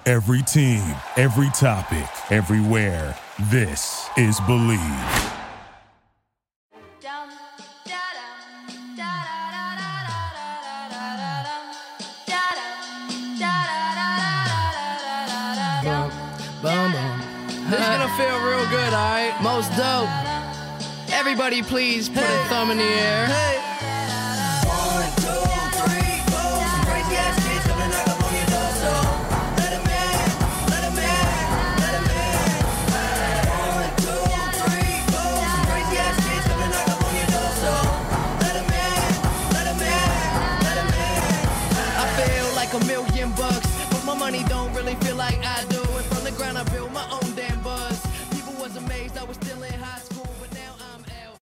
Every team, every topic, everywhere. This is Believe. This is gonna feel real good, alright? Most dope. Everybody please put a thumb in the air. Hey. 1, 2, 3, 4. Some crazy ass kids coming knock up on your door, so let 'em in, let 'em in, let 'em in. 1, 2, 3, 4. Some crazy ass kids coming knock up on your door, so let 'em in, let 'em in, let 'em in. I feel like $1,000,000, but my money don't really feel like I do. And from the ground I built my own damn buzz. People was amazed I was still in high school, but now I'm out.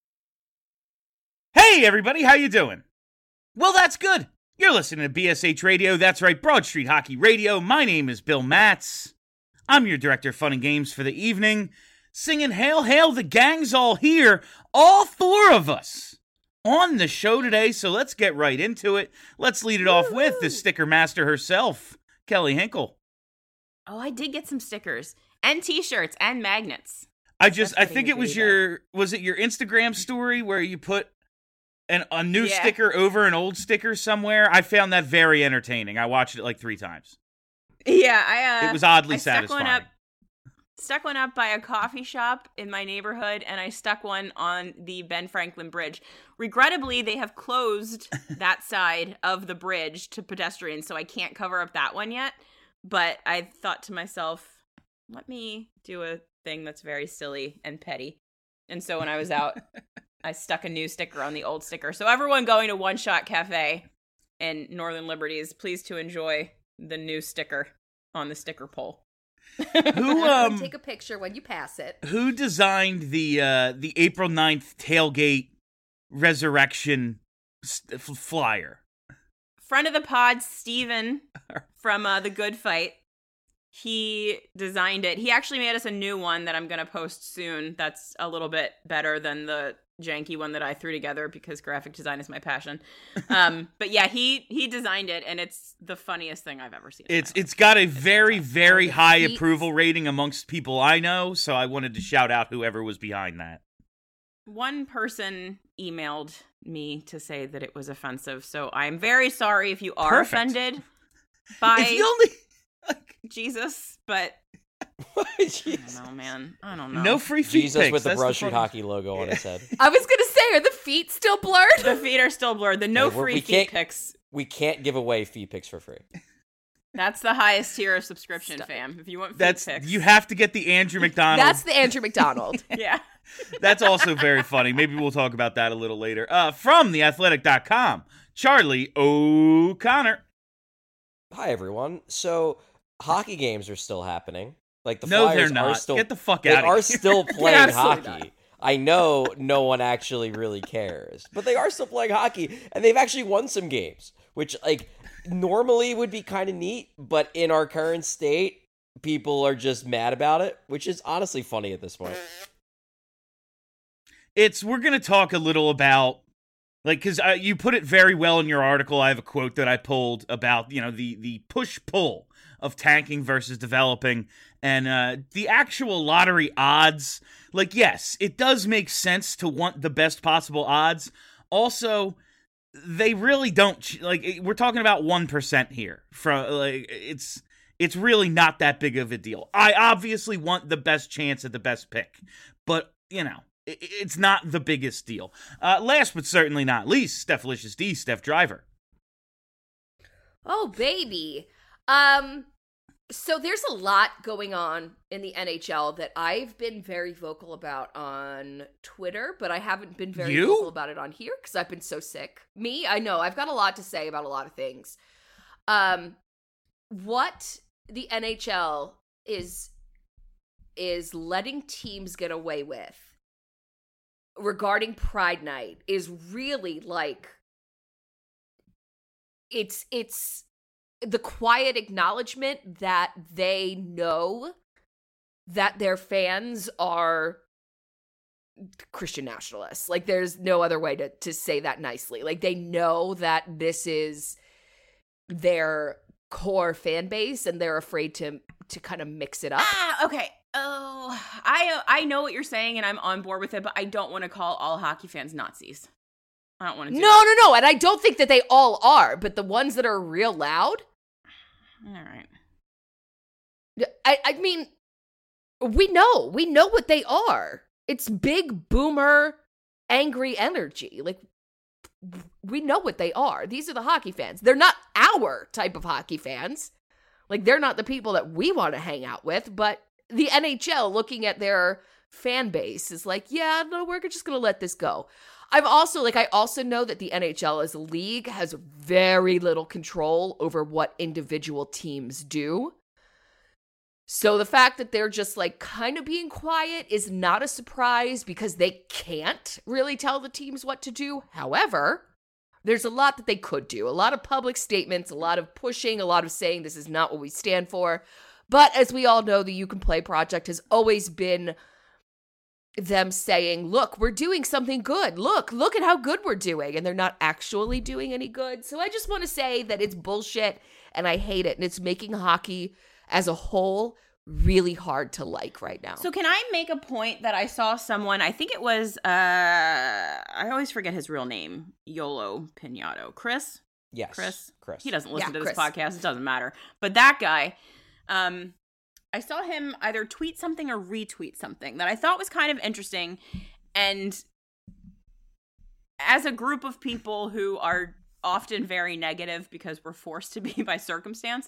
Hey everybody, how you doing? Well, that's good. You're listening to BSH Radio. That's right, Broad Street Hockey Radio. My name is Bill Matz. I'm your director of fun and games for the evening. Singing Hail, Hail, the gang's all here. All four of us on the show today, so let's get right into it. Let's lead it off with the sticker master herself, Kelly Hinkle. Oh, I did get some stickers and t-shirts and magnets. I think it was your Instagram story where you put a new sticker over an old sticker somewhere? I found that very entertaining. I watched it like 3 times. Yeah, it was oddly satisfying. Stuck one up by a coffee shop in my neighborhood, and I stuck one on the Ben Franklin Bridge. Regrettably, they have closed that side of the bridge to pedestrians, so I can't cover up that one yet. But I thought to myself, let me do a thing that's very silly and petty. And so when I was out, I stuck a new sticker on the old sticker. So everyone going to One Shot Cafe in Northern Liberties, please to enjoy the new sticker on the sticker pole. Who take a picture when you pass it. Who designed the April 9th tailgate resurrection flyer? Friend of the pod, Steven from The Good Fight. He designed it. He actually made us a new one that I'm going to post soon. That's a little bit better than the janky one that I threw together because graphic design is my passion. But yeah, he designed it, and it's the funniest thing I've ever seen. It's got a very, very high approval rating amongst people I know, so I wanted to shout out whoever was behind that. One person emailed me to say that it was offensive, so I'm very sorry if you are offended by Jesus, but I don't know, man. I don't know. No free feet Jesus pics. with the That's Broad Street Hockey logo on his head. I was gonna say, are the feet still blurred? The feet are still blurred. The free feet pics. We can't give away feet pics for free. That's the highest tier of subscription, fam. If you want feet pics. You have to get the Andrew McDonald. That's the Andrew McDonald. Yeah. That's also very funny. Maybe we'll talk about that a little later. From theathletic.com, Charlie O'Connor. Hi, everyone. So, hockey games are still happening. Like the no, Flyers they're not. Are still, Get the fuck they out of here. are still playing hockey. Not. I know no one actually really cares, but they are still playing hockey, and they've actually won some games, which normally would be kind of neat, but in our current state, people are just mad about it, which is honestly funny at this point. We're going to talk a little about, because you put it very well in your article. I have a quote that I pulled about, the push-pull of tanking versus developing, and the actual lottery odds. Yes, it does make sense to want the best possible odds. Also, they really don't, we're talking about 1% here. It's really not that big of a deal. I obviously want the best chance at the best pick, but, it's not the biggest deal. Last but certainly not least, Steph-licious D, Steph Driver. Oh, baby. So there's a lot going on in the NHL that I've been very vocal about on Twitter, but I haven't been very vocal about it on here because I've been so sick. Me? I know. I've got a lot to say about a lot of things. What the NHL is letting teams get away with regarding Pride Night is really it's the quiet acknowledgement that they know that their fans are Christian nationalists. There's no other way to say that nicely. They know that this is their core fan base, and they're afraid to kind of mix it up. Okay. Oh, I know what you're saying, and I'm on board with it, but I don't want to call all hockey fans Nazis. I don't want to do that. No, and I don't think that they all are, but the ones that are real loud. All right. I mean, we know what they are. It's big boomer, angry energy. Like, we know what they are. These are the hockey fans. They're not our type of hockey fans. Like, they're not the people that we want to hang out with, but the NHL, looking at their fan base, is like, yeah, no, we're just going to let this go. I also know that the NHL as a league has very little control over what individual teams do. So the fact that they're just like kind of being quiet is not a surprise because they can't really tell the teams what to do. However, there's a lot that they could do. A lot of public statements, a lot of pushing, a lot of saying this is not what we stand for. But as we all know, the You Can Play project has always been them saying, look, we're doing something good. Look at how good we're doing. And they're not actually doing any good. So I just want to say that it's bullshit and I hate it. And it's making hockey as a whole really hard to like right now. So can I make a point that I saw someone, I think it was, I always forget his real name, Yolo Pinato. Chris? Yes. Chris? Chris. He doesn't listen to Chris. this podcast. It doesn't matter. But that guy, I saw him either tweet something or retweet something that I thought was kind of interesting. And as a group of people who are often very negative because we're forced to be by circumstance,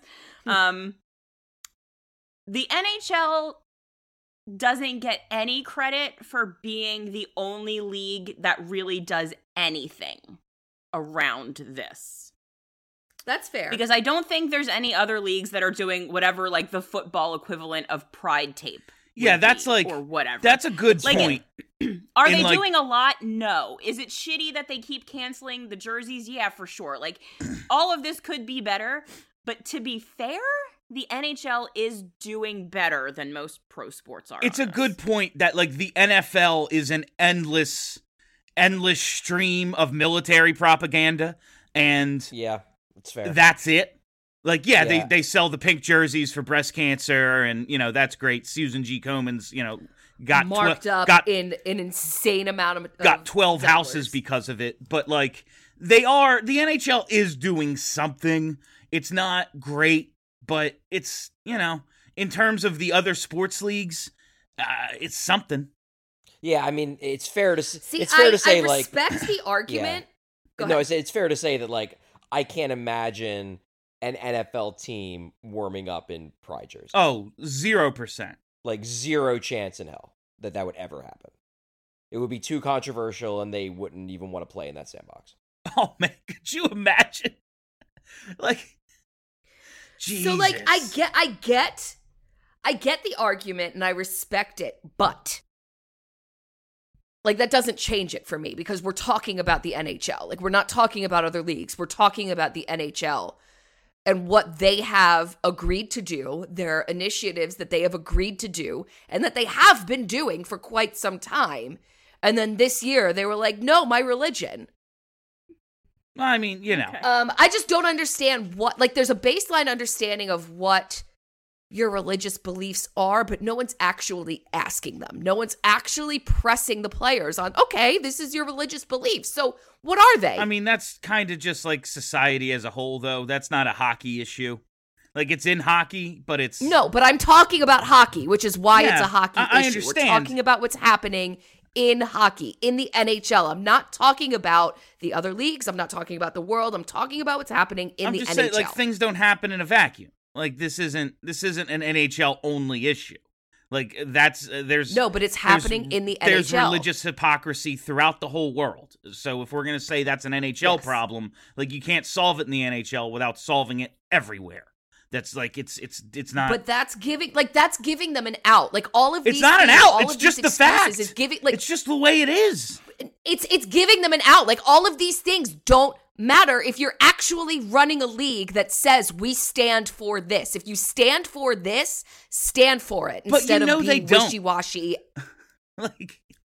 the NHL doesn't get any credit for being the only league that really does anything around this. That's fair. Because I don't think there's any other leagues that are doing whatever, like, the football equivalent of Pride Tape. Yeah, that's like, or whatever. That's a good Like, point. Are they like- doing a lot? No. Is it shitty that they keep canceling the jerseys? Yeah, for sure. Like, all of this could be better. But to be fair, the NHL is doing better than most pro sports are. It's on a this. good point that, like, the NFL is an endless stream of military propaganda, and Yeah, it's fair. that's it. Like, yeah, Yeah. they sell the pink jerseys for breast cancer, and, you know, that's great. Susan G. Komen's, you know, got marked up got in an insane amount of got 12 dollars. houses because of it. But, like, the NHL is doing something. It's not great, but it's, you know, in terms of the other sports leagues, it's something. Yeah, I mean, it's fair to See, it's fair to say, I like, respect the argument. Go no, ahead. it's fair to say that, like, I can't imagine an NFL team warming up in Pride jerseys. Oh, 0%. Like, zero chance in hell that would ever happen. It would be too controversial, and they wouldn't even want to play in that sandbox. Oh, man, could you imagine? Like, Jesus. So, like, I get the argument and I respect it, but like, that doesn't change it for me because we're talking about the NHL. Like, we're not talking about other leagues. We're talking about the NHL and what they have agreed to do, their initiatives that they have agreed to do, and that they have been doing for quite some time. And then this year, they were like, no, my religion. I mean, you know. Okay. I just don't understand what, like, there's a baseline understanding of what your religious beliefs are, but no one's actually asking them. No one's actually pressing the players on, okay, this is your religious beliefs. So what are they? I mean, that's kind of just like society as a whole, though. That's not a hockey issue. Like, it's in hockey, but it's... No, but I'm talking about hockey, which is why it's Yeah, a hockey I issue. understand. We're talking about what's happening in hockey, in the NHL. I'm not talking about the other leagues. I'm not talking about the world. I'm talking about what's happening in I'm the just NHL. saying, like, things don't happen in a vacuum. Like, this isn't an NHL only issue. Like, that's there's No, but it's happening in the There's NHL. religious hypocrisy throughout the whole world. So if we're gonna say that's an NHL Yes. problem, like, you can't solve it in the NHL without solving it everywhere. That's like it's not. But that's giving them an out. Like, all of these It's not an things, out. all It's of just these the fact. excuses is giving, like, it's just the way it is. it's giving them an out. Like, all of these things don't matter if you're actually running a league that says we stand for this. If you stand for this, stand for it But instead you know of they being don't. wishy-washy. Like,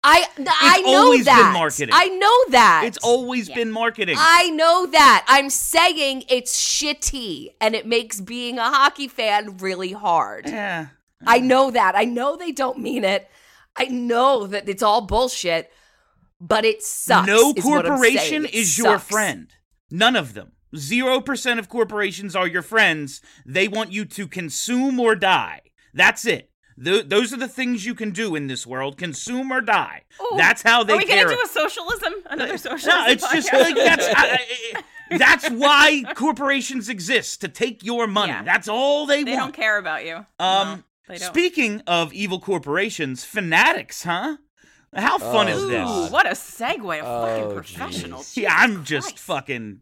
I know always that. been marketing. I know that. It's always been marketing. I know that. I'm saying it's shitty and it makes being a hockey fan really hard. Yeah. I know that. I know they don't mean it. I know that it's all bullshit, but it sucks. No is what I'm corporation saying. It is your sucks. friend. None of them. 0% of corporations are your friends. They want you to consume or die. That's it. Those are the things you can do in this world: consume or die. Ooh, That's how they Are we care. gonna do a socialism? Another socialism? No, it's just podcast? like that's why corporations exist, to take your money. Yeah. That's all they They want. don't care about you. No, they don't. Speaking of evil corporations, Fanatics, huh? How fun is Ooh, this? what a segue! A Oh, fucking professional. jeez. Yeah, I'm Jesus just Christ. fucking.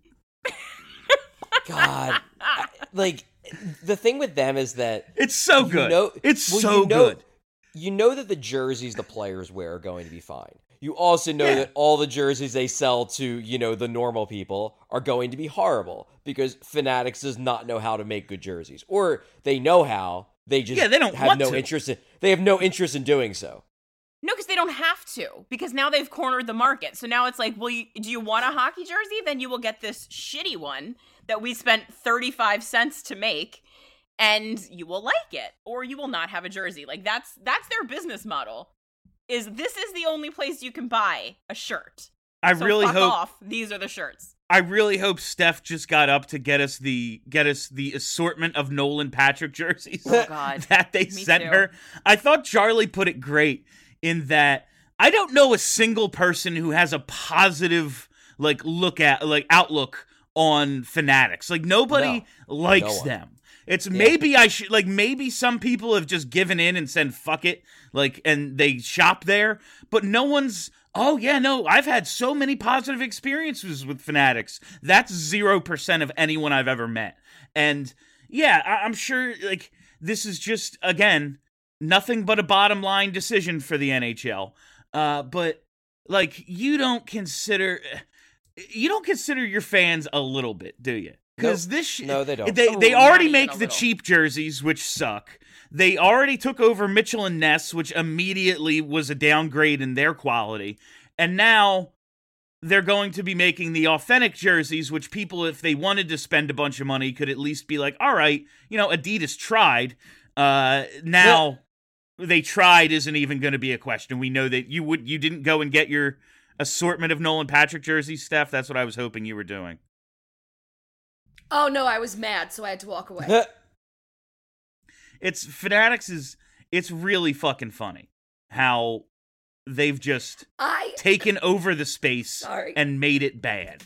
God, like the thing with them is that It's so good. It's well, so good. You know that the jerseys the players wear are going to be fine. You also know Yeah. that all the jerseys they sell to, the normal people are going to be horrible because Fanatics does not know how to make good jerseys. Or they know how, they just Yeah, they don't have want no to. interest in they have no interest in doing so. No, because they don't have to. Because now they've cornered the market. So now it's like, well, do you want a hockey jersey? Then you will get this shitty one that we spent 35 cents to make, and you will like it, or you will not have a jersey. Like that's their business model. This is the only place you can buy a shirt. I So really fuck hope. off. These are the shirts. I really hope Steph just got up to get us the assortment of Nolan Patrick jerseys Oh God. that they Me sent too. her. I thought Charlie put it great in that I don't know a single person who has a positive outlook on Fanatics. Like nobody likes No one. them. It's maybe some people have just given in and said fuck it, and they shop there, but no one's. Oh yeah, no, I've had so many positive experiences with Fanatics. That's 0% of anyone I've ever met. And yeah, I'm sure this is just, again, nothing but a bottom line decision for the NHL. But you don't consider your fans a little bit, do you? Because No, they don't. They Oh, already not even make a the little. cheap jerseys, which suck. They already took over Mitchell and Ness, which immediately was a downgrade in their quality. And now they're going to be making the authentic jerseys, which people, if they wanted to spend a bunch of money, could at least be like, all right, Adidas tried. Now they tried isn't even going to be a question. We know that you didn't go and get your assortment of Nolan Patrick jerseys, Steph. That's what I was hoping you were doing. Oh no, I was mad, so I had to walk away. It's really fucking funny how they've just I taken over the space Sorry. and made it bad.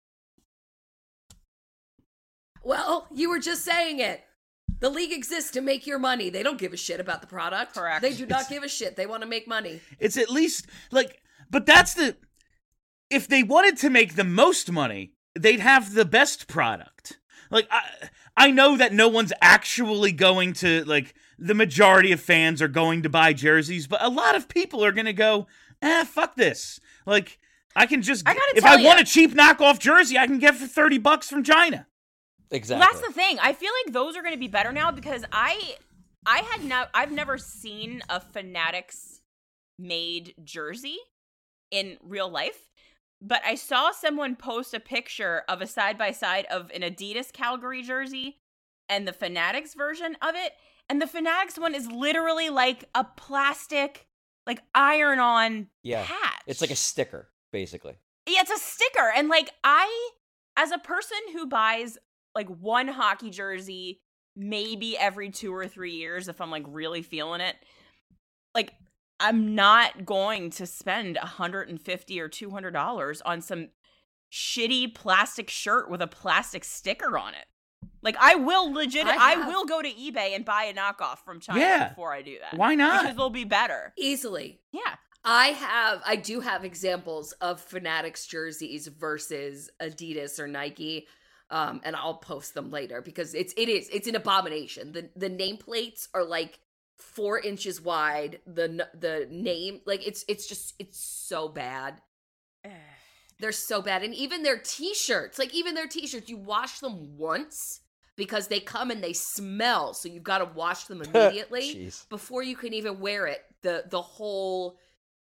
Well, you were just saying it. The league exists to make your money. They don't give a shit about the product. Correct. They do not give a shit. They want to make money. It's at least but that's if they wanted to make the most money, they'd have the best product. I know that no one's actually going to, the majority of fans are going to buy jerseys, but a lot of people are going to go, fuck this. I can just, I gotta if tell I want ya. a cheap knockoff jersey, I can get for $30 from China. Exactly. Well, that's the thing. I feel like those are going to be better now because I've never seen a Fanatics made jersey in real life, but I saw someone post a picture of a side by side of an Adidas Calgary jersey and the Fanatics version of it, and the Fanatics one is literally like a plastic, iron-on patch. It's like a sticker, basically. Yeah, it's a sticker. And as a person who buys one hockey jersey maybe every 2 or 3 years if I'm really feeling it, I'm not going to spend $150 or $200 on some shitty plastic shirt with a plastic sticker on it. I will I will go to eBay and buy a knockoff from China before I do that. Why not? Because they'll be better. Easily. Yeah. I do have examples of Fanatics jerseys versus Adidas or Nike. And I'll post them later because it's an abomination. The nameplates are 4 inches wide. The name, it's so bad. They're so bad. And even their t-shirts, you wash them once because they come and they smell. So you've got to wash them immediately Jeez. before you can even wear it. The whole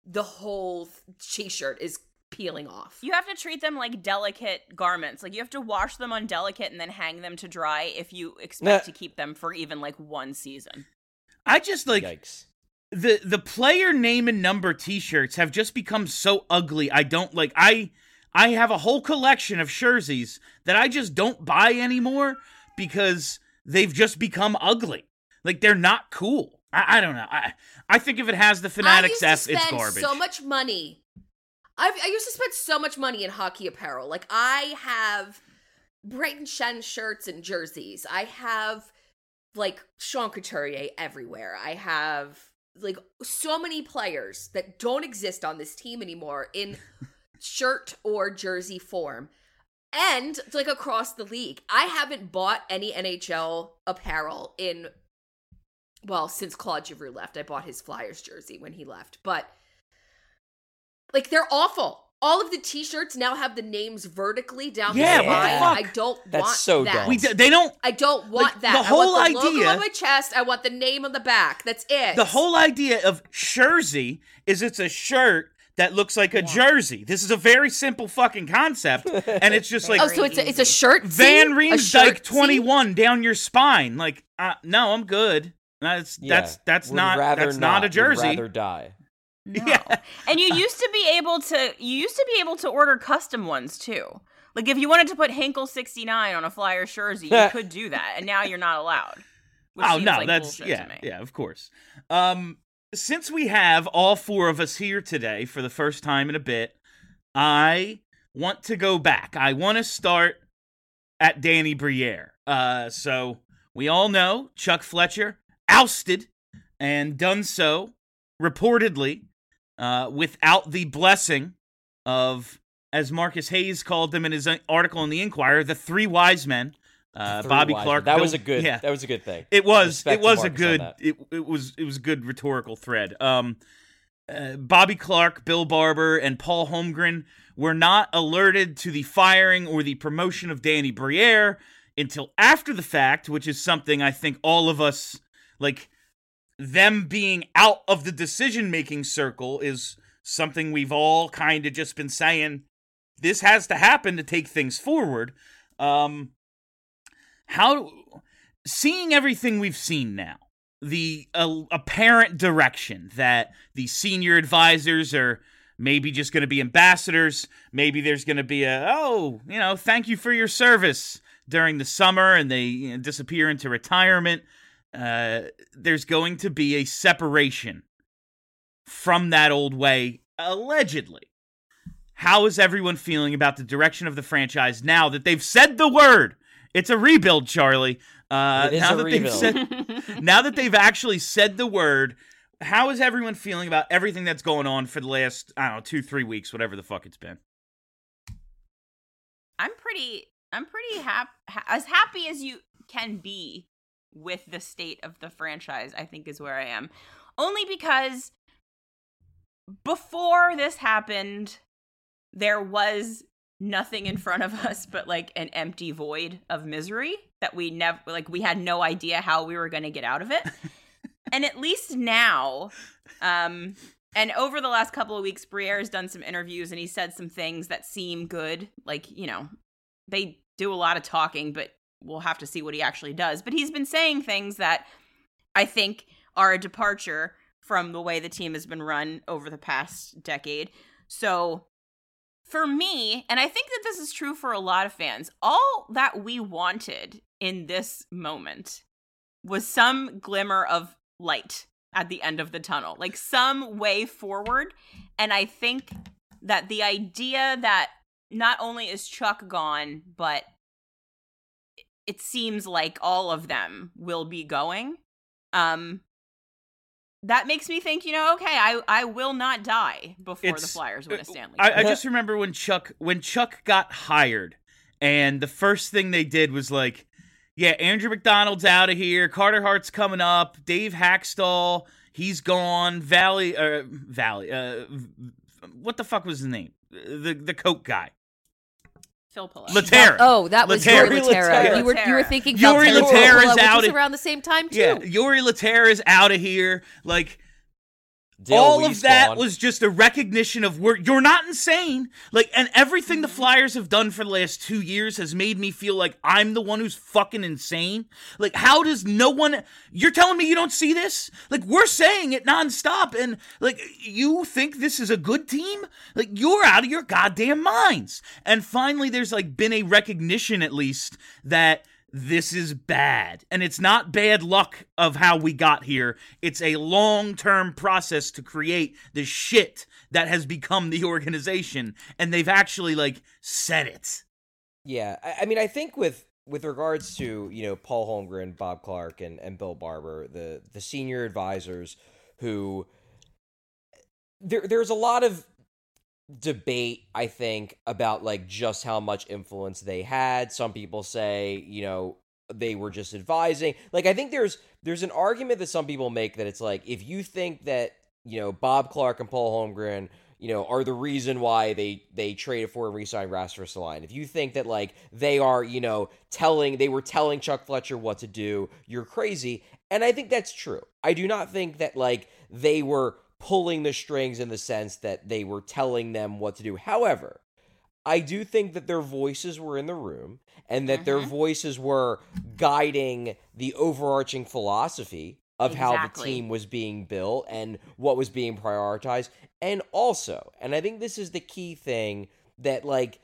the whole t-shirt is peeling off. You have to treat them like delicate garments. Like, you have to wash them on delicate and then hang them to dry if you expect to keep them for even, like, one season. I just, like, Yikes. the player name and number t-shirts have just become so ugly. I don't, like, I have a whole collection of jerseys that I just don't buy anymore because they've just become ugly. Like, they're not cool. I don't know. I think if it has the Fanatics F, it's garbage. So much money. I used to spend so much money in hockey apparel. Like, I have Brayden Schenn shirts and jerseys. I have, like, Sean Couturier everywhere. I have, like, so many players that don't exist on this team anymore in shirt or jersey form. And, like, across the league. I haven't bought any NHL apparel since Claude Giroux left. I bought his Flyers jersey when he left. But, like, they're awful. All of the t-shirts now have the names vertically down Yeah, the what the spine. fuck? I don't That's want so that. dumb. They don't... I don't want Like, that. the whole I want the idea- logo on my chest. I want the name on the back. That's it. The whole idea of jersey is it's a shirt that looks like a jersey. This is a very simple fucking concept, and it's just like so it's a shirt. Van A Riemsdyk shirt 21 down your spine. Like, no, I'm good. That's Would not rather that's not a jersey. Would rather die. Yeah. And you used to be able to order custom ones too. Like, if you wanted to put Hinkle 69 on a Flyers jersey, you could do that, and now you're not allowed. Which Oh seems no, like that's bullshit to me. yeah, of course. Since we have all four of us here today for the first time in a bit, I want to go back. I want to start at Danny Briere. So we all know Chuck Fletcher ousted and done so reportedly without the blessing of, as Marcus Hayes called them in his article in the Inquirer, the three wise men. Bobby Clark. That Bill- was a good. Yeah. That was a good thing. It was. Respect It to was a Marcus on good. that. It was a good rhetorical thread. Bobby Clark, Bill Barber, and Paul Holmgren were not alerted to the firing or the promotion of Danny Briere until after the fact, which is something I think all of us, like, them being out of the decision-making circle is something we've all kind of just been saying, this has to happen to take things forward. Seeing everything we've seen now, the apparent direction that the senior advisors are maybe just going to be ambassadors, maybe there's going to be thank you for your service during the summer, and they disappear into retirement. There's going to be a separation from that old way, allegedly. How is everyone feeling about the direction of the franchise now that they've said the word? It's a rebuild, Charlie. It is a rebuild. Now that they've actually said the word, how is everyone feeling about everything that's going on for the last, 2-3 weeks, whatever the fuck it's been? I'm pretty as happy as you can be with the state of the franchise, I think, is where I am. Only because before this happened, there was nothing in front of us but, like, an empty void of misery that we had no idea how we were going to get out of it. And at least now, and over the last couple of weeks, Briere has done some interviews and he said some things that seem good. Like, they do a lot of talking, but we'll have to see what he actually does. But he's been saying things that I think are a departure from the way the team has been run over the past decade. So for me, and I think that this is true for a lot of fans, all that we wanted in this moment was some glimmer of light at the end of the tunnel, like some way forward. And I think that the idea that not only is Chuck gone, but it seems like all of them will be going, that makes me think, okay, I will not die before the Flyers win a Stanley Cup. I just remember when Chuck got hired, and the first thing they did was like, yeah, Andrew McDonald's out of here, Carter Hart's coming up, Dave Hackstall, he's gone, Valley, what the fuck was his name? The Coke guy. Phil Pulaski. Laterra. Oh, that was Yuri Laterra. You were thinking Yuri Valtteri Laterra's Filppula, out which was of- around the same time too. Yeah, Yuri Laterra's out of here. Like, all Lee's of that gone. was just a recognition of you're not insane. Like, and everything the Flyers have done for the last 2 years has made me feel like I'm the one who's fucking insane. Like, how does no one, you're telling me you don't see this? Like, we're saying it nonstop, and like, you think this is a good team? Like, you're out of your goddamn minds. And finally, there's like been a recognition, at least, that this is bad. And it's not bad luck of how we got here. It's a long-term process to create the shit that has become the organization. And they've actually, like, said it. Yeah, I mean, I think with regards to, you know, Paul Holmgren, Bob Clark, and Bill Barber, the senior advisors who... There's a lot of debate, I think, about like just how much influence they had. Some people say, you know, they were just advising. Like, I think there's an argument that some people make that it's like, if you think that, you know, Bob Clark and Paul Holmgren, you know, are the reason why they traded for and re-signed Rasmus Dahlin, if you think that like they are, you know, they were telling Chuck Fletcher what to do, you're crazy. And I think that's true. I do not think that like they were pulling the strings in the sense that they were telling them what to do. However, I do think that their voices were in the room and that their voices were guiding the overarching philosophy of how the team was being built and what was being prioritized. And also, and I think this is the key thing, that like,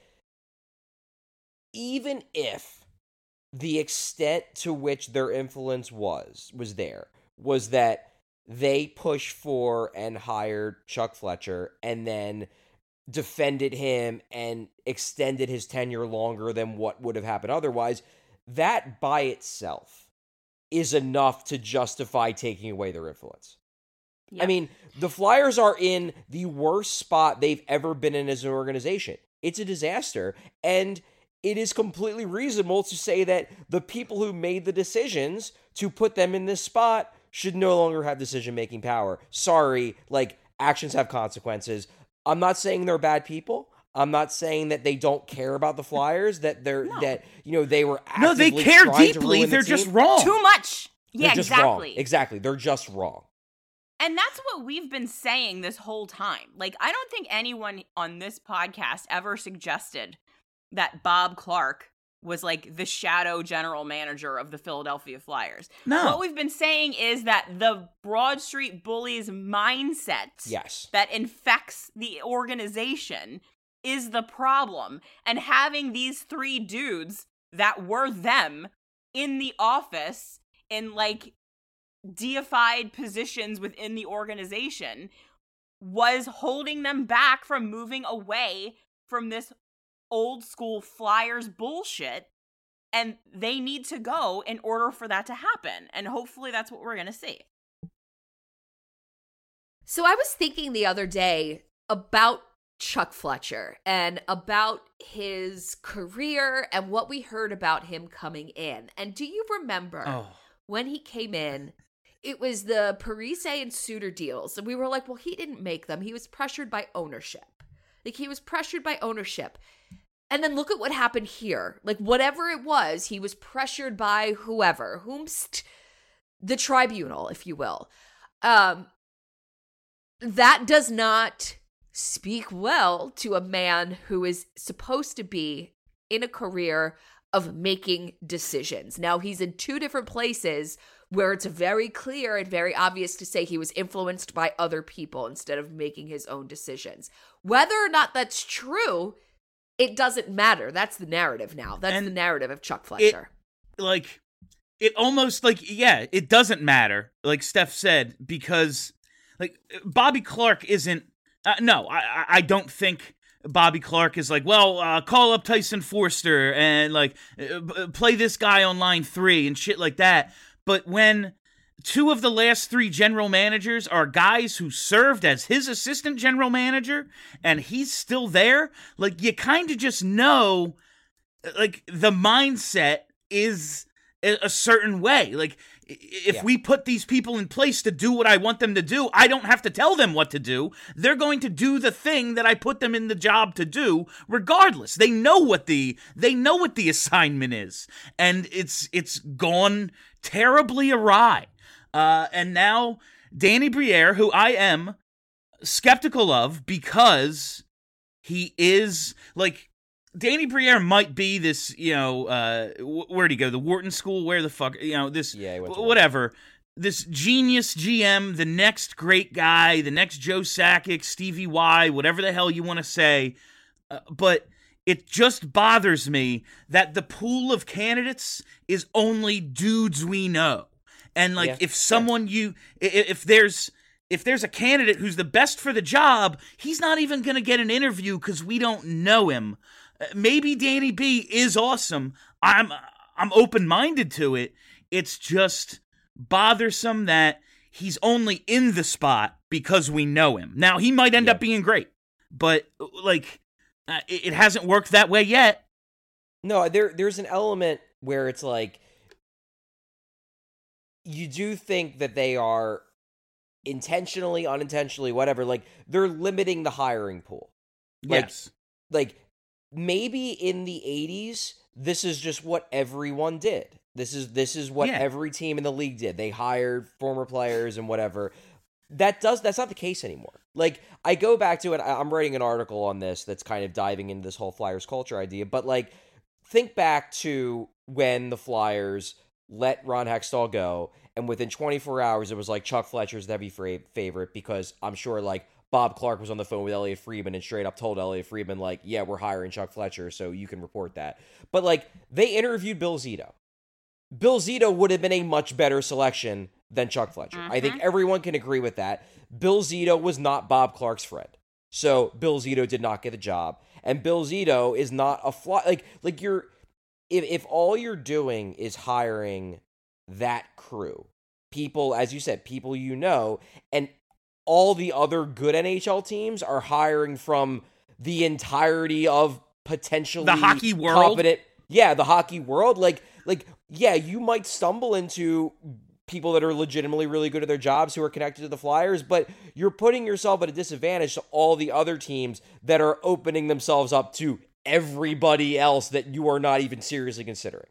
even if the extent to which their influence was that they pushed for and hired Chuck Fletcher and then defended him and extended his tenure longer than what would have happened otherwise, that by itself is enough to justify taking away their influence. Yep. I mean, the Flyers are in the worst spot they've ever been in as an organization. It's a disaster, and it is completely reasonable to say that the people who made the decisions to put them in this spot should no longer have decision-making power. Sorry, like, actions have consequences. I'm not saying they're bad people. I'm not saying that they don't care about the Flyers, that that, you know, they were actively they care trying to deeply. ruin They're the just team. wrong. Too much. Yeah, They're just exactly. wrong. Exactly. They're just wrong. And that's what we've been saying this whole time. Like, I don't think anyone on this podcast ever suggested that Bob Clark was like the shadow general manager of the Philadelphia Flyers. No. What we've been saying is that the Broad Street Bullies mindset that infects the organization is the problem. And having these three dudes that were them in the office in like deified positions within the organization was holding them back from moving away from this old school Flyers bullshit, and they need to go in order for that to happen. And hopefully that's what we're going to see. So I was thinking the other day about Chuck Fletcher and about his career and what we heard about him coming in. And do you remember when he came in, it was the Parise and Suter deals. And we were like, well, he didn't make them. He was pressured by ownership. And then look at what happened here. Like, whatever it was, he was pressured by whomst the tribunal, if you will. That does not speak well to a man who is supposed to be in a career of making decisions. Now, he's in two different places where it's very clear and very obvious to say he was influenced by other people instead of making his own decisions. Whether or not that's true, it doesn't matter. That's the narrative now. That's the narrative of Chuck Fletcher. It almost like, yeah, it doesn't matter, like Steph said, because like Bobby Clark isn't, I don't think Bobby Clark is like, well, call up Tyson Forster and like play this guy on line 3 and shit like that. But when 2 of the last 3 general managers are guys who served as his assistant general manager and he's still there, like, you kind of just know, like, the mindset is a certain way. Like, if we put these people in place to do what I want them to do, I don't have to tell them what to do. They're going to do the thing that I put them in the job to do, regardless. They know what the assignment is, and it's gone terribly awry. And now Danny Briere, who I am skeptical of, because he is, like, Danny Briere might be this, where'd he go? The Wharton School? Where the fuck? This, Yeah, he went to whatever. This genius GM, the next great guy, the next Joe Sakic, Stevie Y, whatever the hell you want to say. But it just bothers me that the pool of candidates is only dudes we know. And, like, if someone if there's a candidate who's the best for the job, he's not even going to get an interview because we don't know him. Maybe Danny B is awesome. I'm open-minded to it. It's just bothersome that he's only in the spot because we know him. Now, he might end up being great, but, like, it hasn't worked that way yet. No, there's an element where it's like, you do think that they are intentionally, unintentionally, whatever, like, they're limiting the hiring pool. Yes. Like, maybe in the 80s, this is just what everyone did. This is what every team in the league did. They hired former players and whatever. That's not the case anymore. Like, I go back to it. I'm writing an article on this that's kind of diving into this whole Flyers culture idea. But, like, think back to when the Flyers let Ron Hextall go, and within 24 hours, it was like Chuck Fletcher's the heavy favorite, because I'm sure, like, Bob Clark was on the phone with Elliot Friedman and straight up told Elliot Friedman, like, yeah, we're hiring Chuck Fletcher, so you can report that. But, like, they interviewed Bill Zito. Bill Zito would have been a much better selection than Chuck Fletcher. I think everyone can agree with that. Bill Zito was not Bob Clark's friend. So Bill Zito did not get the job. And Bill Zito is not a like you're if all you're doing is hiring that crew, people, as you said, people you know, and all the other good NHL teams are hiring from the entirety of potentially the hockey world. Competent, the hockey world. Like, yeah, you might stumble into people that are legitimately really good at their jobs who are connected to the Flyers, but you're putting yourself at a disadvantage to all the other teams that are opening themselves up to everybody else that you are not even seriously considering.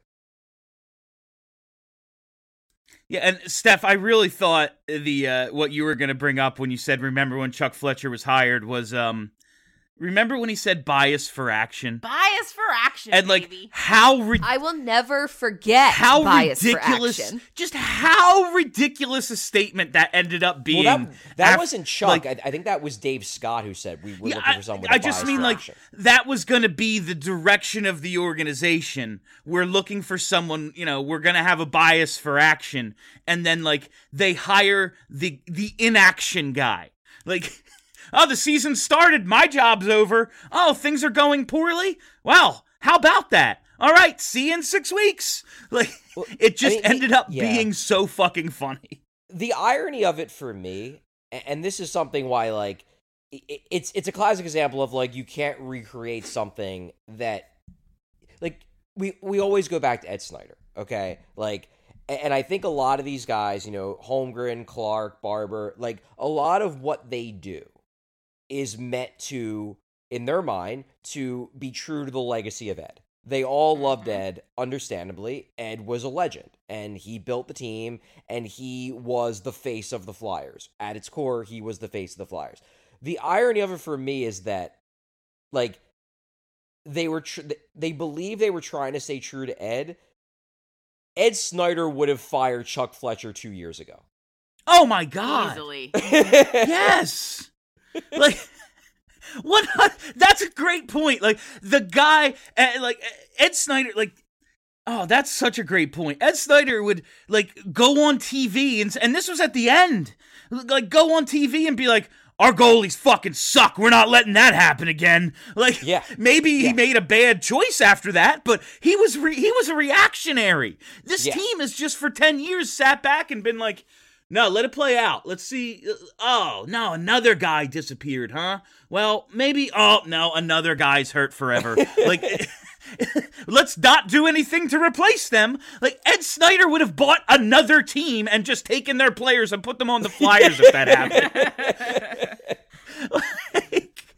Yeah, and Steph, I really thought the what you were going to bring up when you said, remember when Chuck Fletcher was hired, was remember when he said bias for action? Bias for action, and, like, baby. I will never forget how bias ridiculous, for action. just how ridiculous a statement that ended up being. Well, that wasn't Chuck. Like, I think that was Dave Scott who said we were looking for someone with I a just bias mean, for like, action. that was going to be the direction of the organization. We're looking for someone, we're going to have a bias for action. And then, like, they hire the inaction guy. Like, oh, the season started. My job's over. Oh, things are going poorly? Well, how about that? All right, see you in 6 weeks. Like, it just ended up being so fucking funny. The irony of it for me, and this is something why, like, it's a classic example of, like, you can't recreate something that, like, we always go back to Ed Snyder, okay? Like, and I think a lot of these guys, Holmgren, Clark, Barber, like, a lot of what they do is meant to, in their mind, to be true to the legacy of Ed. They all loved Ed, understandably. Ed was a legend, and he built the team, and he was the face of the Flyers. At its core, he was the face of the Flyers. The irony of it for me is that, like, they believe they were trying to stay true to Ed. Ed Snyder would have fired Chuck Fletcher 2 years ago. Oh my God. Easily. Yes. Like, what? That's a great point. Like, the guy, like, Ed Snyder, like, oh, that's such a great point. Ed Snyder would, like, go on TV, and this was at the end, like, go on TV and be like, our goalies fucking suck. We're not letting that happen again. Like, maybe he made a bad choice after that, but he was a reactionary. This team has just for 10 years sat back and been like, no, let it play out. Let's see. Oh, no, another guy disappeared, huh? Well, maybe, oh, no, another guy's hurt forever. Like, let's not do anything to replace them. Like, Ed Snyder would have bought another team and just taken their players and put them on the Flyers if that happened.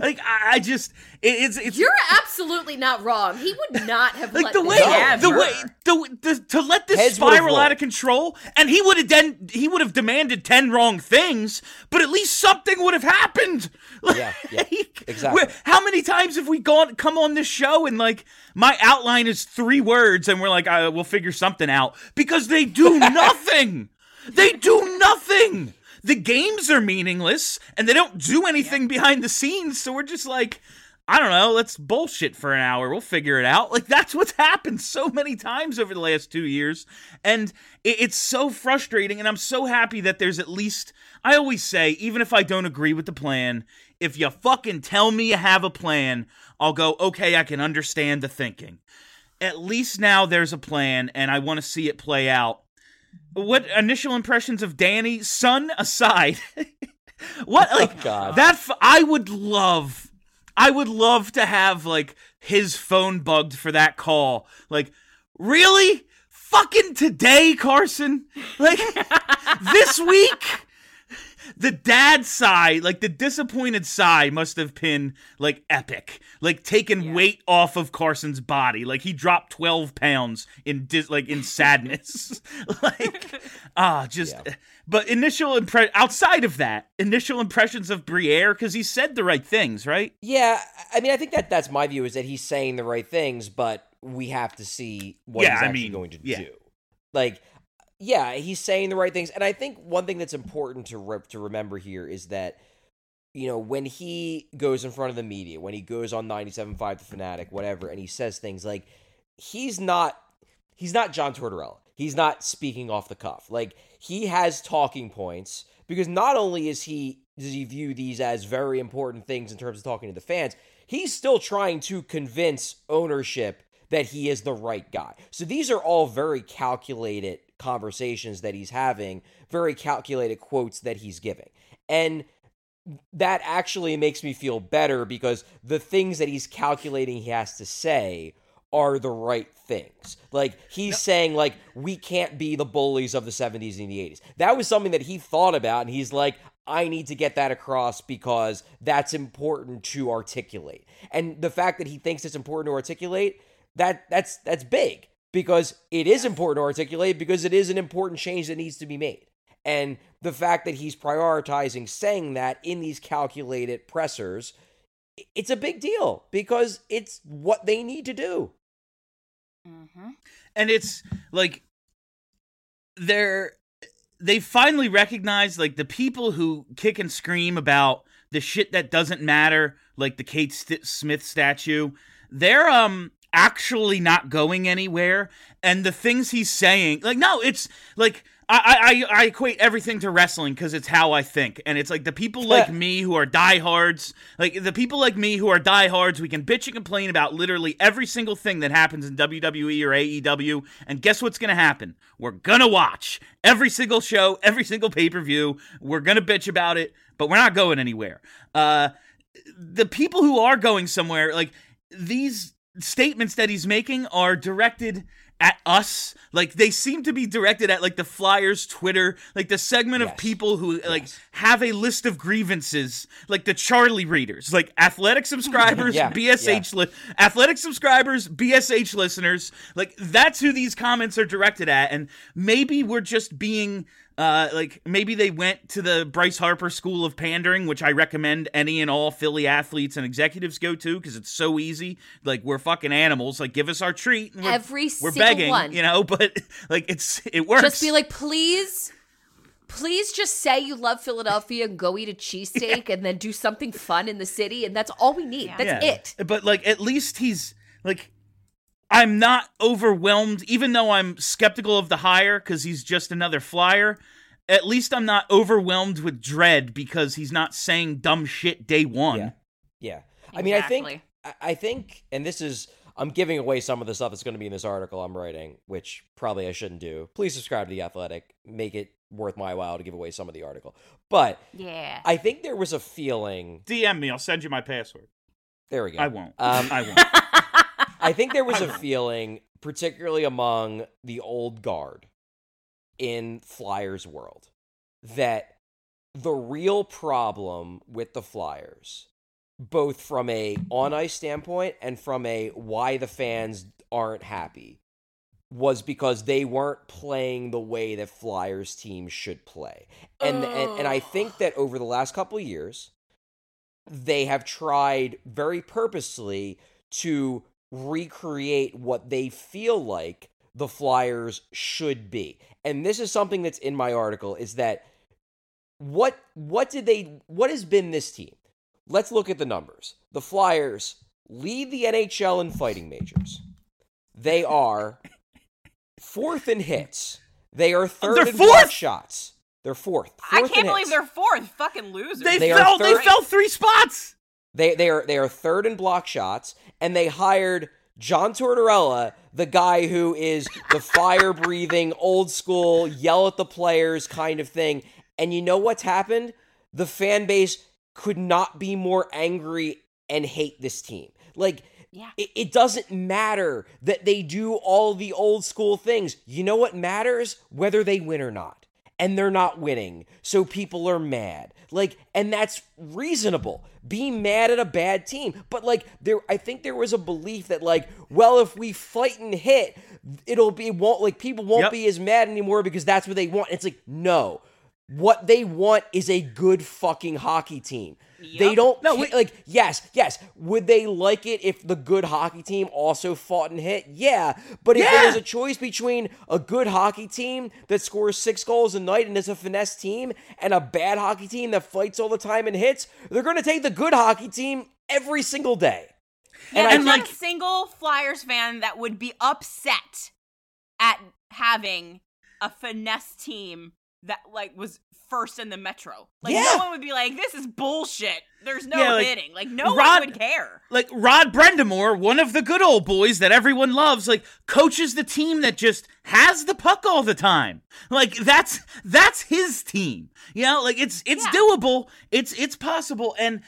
Like I just it's You're absolutely not wrong. He would not have like let the way this to let this Heads would've spiral out rolled. of control, and he would have demanded 10 wrong things, but at least something would have happened. Yeah, exactly. How many times have we come on this show and like my outline is 3 words and we're like, we'll figure something out because they do nothing. They do nothing. The games are meaningless and they don't do anything behind the scenes. So we're just like, I don't know, let's bullshit for an hour. We'll figure it out. Like that's what's happened so many times over the last 2 years. And it's so frustrating. And I'm so happy that there's at least, I always say, even if I don't agree with the plan, if you fucking tell me you have a plan, I'll go, okay, I can understand the thinking. At least now there's a plan and I want to see it play out. What initial impressions of Danny, son aside, what like God. I would love to have like his phone bugged for that call. Like, really? Fucking today, Carson? Like this week? The dad sigh, like the disappointed sigh must have been like epic. Like taking weight off of Carson's body. Like he dropped 12 pounds in sadness. But outside of that, initial impressions of Briere, because he said the right things, right? Yeah, I mean, I think that's my view, is that he's saying the right things, but we have to see what he's actually going to do. Like, yeah, he's saying the right things, and I think one thing that's important to remember here is that, you know, when he goes in front of the media, when he goes on 97.5 The Fanatic, whatever, and he says things like, he's not John Tortorella. He's not speaking off the cuff. Like, he has talking points, because not only does he view these as very important things in terms of talking to the fans, he's still trying to convince ownership that he is the right guy. So these are all very calculated conversations that he's having, very calculated quotes that he's giving. And that actually makes me feel better, because the things that he's calculating he has to say are the right things. Like, he's saying, like, we can't be the bullies of the 70s and the 80s. That was something that he thought about, and he's like, I need to get that across because that's important to articulate. And the fact that he thinks it's important to articulate, that's big, because it is important to articulate, because it is an important change that needs to be made. And the fact that he's prioritizing saying that in these calculated pressers, it's a big deal, because it's what they need to do. Mm-hmm. And it's like they finally recognize, like, the people who kick and scream about the shit that doesn't matter, like the Kate Smith statue, they're actually not going anywhere. And the things he's saying, like, no, it's like I equate everything to wrestling because it's how I think. And it's like the people like me who are diehards, like the people like me who are diehards, we can bitch and complain about literally every single thing that happens in WWE or AEW. And guess what's going to happen? We're going to watch every single show, every single pay-per-view. We're going to bitch about it, but we're not going anywhere. The people who are going somewhere, like, these statements that he's making are directed at us. Like, they seem to be directed at, like, the Flyers Twitter, like the segment of people who like have a list of grievances, like the Charlie readers, like athletic subscribers, athletic subscribers, BSH listeners. Like, that's who these comments are directed at. And maybe we're just being like, maybe they went to the Bryce Harper School of Pandering, which I recommend any and all Philly athletes and executives go to, because it's so easy. Like, we're fucking animals. Like, give us our treat. And we're begging, one. You know, but like, it works. Just be like, please just say you love Philadelphia and go eat a cheesesteak and then do something fun in the city, and that's all we need. Yeah. That's it. But like, at least he's like, I'm not overwhelmed, even though I'm skeptical of the hire because he's just another Flyer. At least I'm not overwhelmed with dread because he's not saying dumb shit day one. Yeah. Exactly. I mean, I think, and this is, I'm giving away some of the stuff that's going to be in this article I'm writing, which probably I shouldn't do. Please subscribe to The Athletic. Make it worth my while to give away some of the article. But Yeah. I think there was a feeling. DM me. I'll send you my password. There we go. I won't. I won't. I think there was a feeling, particularly among the old guard in Flyers world, that the real problem with the Flyers both from a on-ice standpoint and from a why the fans aren't happy, was because they weren't playing the way that Flyers teams should play. And I think that over the last couple of years, they have tried very purposely to recreate what they feel like the Flyers should be. And this is something that's in my article, is that what has been this team? Let's look at the numbers. The Flyers lead the NHL in fighting majors. They are 4th in hits. They are 3rd in block shots. They're 4th. I can't believe they're 4th. Fucking losers. They fell 3 spots. They are 3rd in block shots, and they hired John Tortorella, the guy who is the fire-breathing, old-school, yell-at-the-players kind of thing. And you know what's happened? The fan base could not be more angry and hate this team. Like, it doesn't matter that they do all the old-school things. You know what matters? Whether they win or not. And they're not winning, so people are mad. Like, and that's reasonable. Be mad at a bad team. But, like, I think there was a belief that, like, well, if we fight and hit, people won't be as mad anymore because that's what they want. It's like, no. What they want is a good fucking hockey team. Yep. They don't yes. Would they like it if the good hockey team also fought and hit? Yeah. But if there was a choice between a good hockey team that scores 6 goals a night and is a finesse team and a bad hockey team that fights all the time and hits, they're going to take the good hockey team every single day. Yeah, and there's not a single Flyers fan that would be upset at having a finesse team that, like, was first in the Metro. Like, no one would be like, this is bullshit. There's no hitting. Like, no one would care. Like, Rod Brendamore, one of the good old boys that everyone loves, like, coaches the team that just has the puck all the time. Like, that's his team. You know, like, it's doable. It's possible. And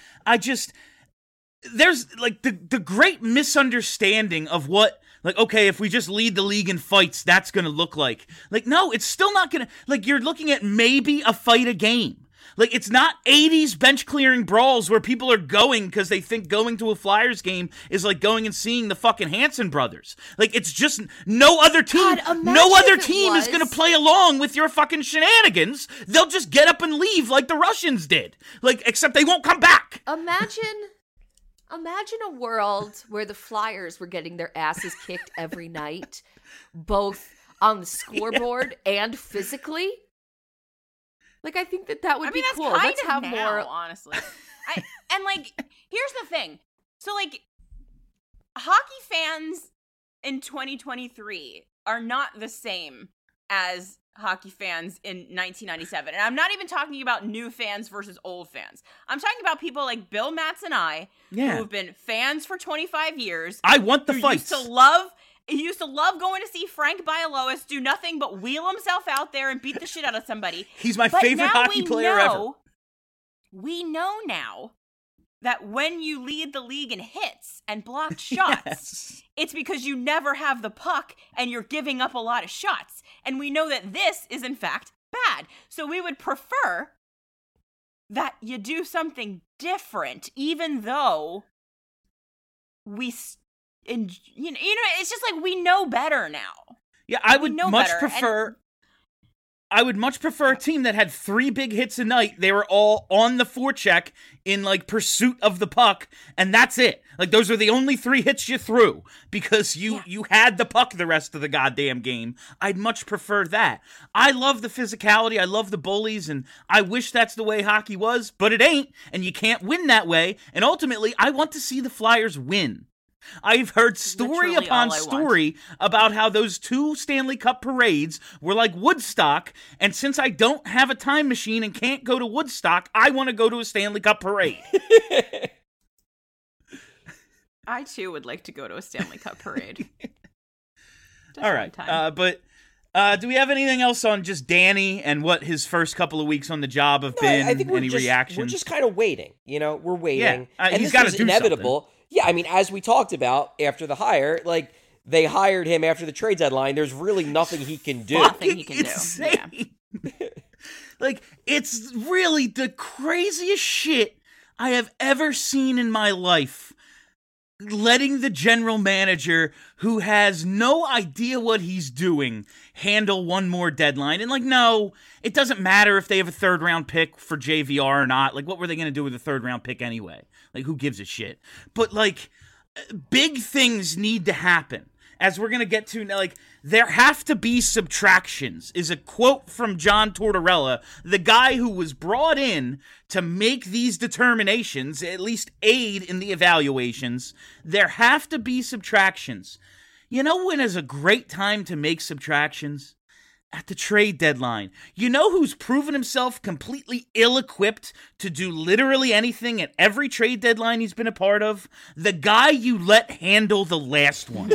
there's, like, the great misunderstanding of what, like, okay, if we just lead the league in fights, that's going to look like. Like, no, it's still not going to... Like, you're looking at maybe a fight a game. Like, it's not 80s bench-clearing brawls where people are going because they think going to a Flyers game is like going and seeing the fucking Hanson brothers. Like, it's just no other team... no other team is going to play along with your fucking shenanigans. They'll just get up and leave like the Russians did. Like, except they won't come back. Imagine a world where the Flyers were getting their asses kicked every night, both on the scoreboard and physically. Like, I think that would be cool. Let's have more, honestly. And like, here's the thing. So, like, hockey fans in 2023 are not the same as hockey fans in 1997. And I'm not even talking about new fans versus old fans. I'm talking about people like Bill Matz and I, who have been fans for 25 years. I want the fights. He used to love going to see Frank Bialowas do nothing but wheel himself out there and beat the shit out of somebody. He's my favorite hockey player ever. We know now that when you lead the league in hits and blocked shots, it's because you never have the puck and you're giving up a lot of shots. And we know that this is, in fact, bad. So we would prefer that you do something different, even though it's just like we know better now. Yeah, I would much prefer... I would much prefer a team that had 3 big hits a night. They were all on the forecheck in, like, pursuit of the puck, and that's it. Like, those are the only 3 hits you threw because you had the puck the rest of the goddamn game. I'd much prefer that. I love the physicality. I love the bullies, and I wish that's the way hockey was, but it ain't, and you can't win that way, and ultimately, I want to see the Flyers win. I've heard story upon story about how those 2 Stanley Cup parades were like Woodstock, and since I don't have a time machine and can't go to Woodstock, I want to go to a Stanley Cup parade. I, too, would like to go to a Stanley Cup parade. All right, but do we have anything else on just Danny and what his first couple of weeks on the job have been? I think reactions? We're just kind of waiting. You know, we're waiting. Yeah, and he's got to do inevitable. Something. Yeah, I mean, as we talked about after the hire, like, they hired him after the trade deadline. There's really nothing he can do. Nothing he can do. Yeah. Like, it's really the craziest shit I have ever seen in my life. Letting the general manager, who has no idea what he's doing, handle one more deadline. And, like, no, it doesn't matter if they have a third-round pick for JVR or not. Like, what were they going to do with a third-round pick anyway? Like, who gives a shit? But, like, big things need to happen. As we're going to get to, like, there have to be subtractions, is a quote from John Tortorella, the guy who was brought in to make these determinations, at least aid in the evaluations. There have to be subtractions. You know when is a great time to make subtractions? At the trade deadline. You know who's proven himself completely ill-equipped to do literally anything at every trade deadline he's been a part of? The guy you let handle the last one.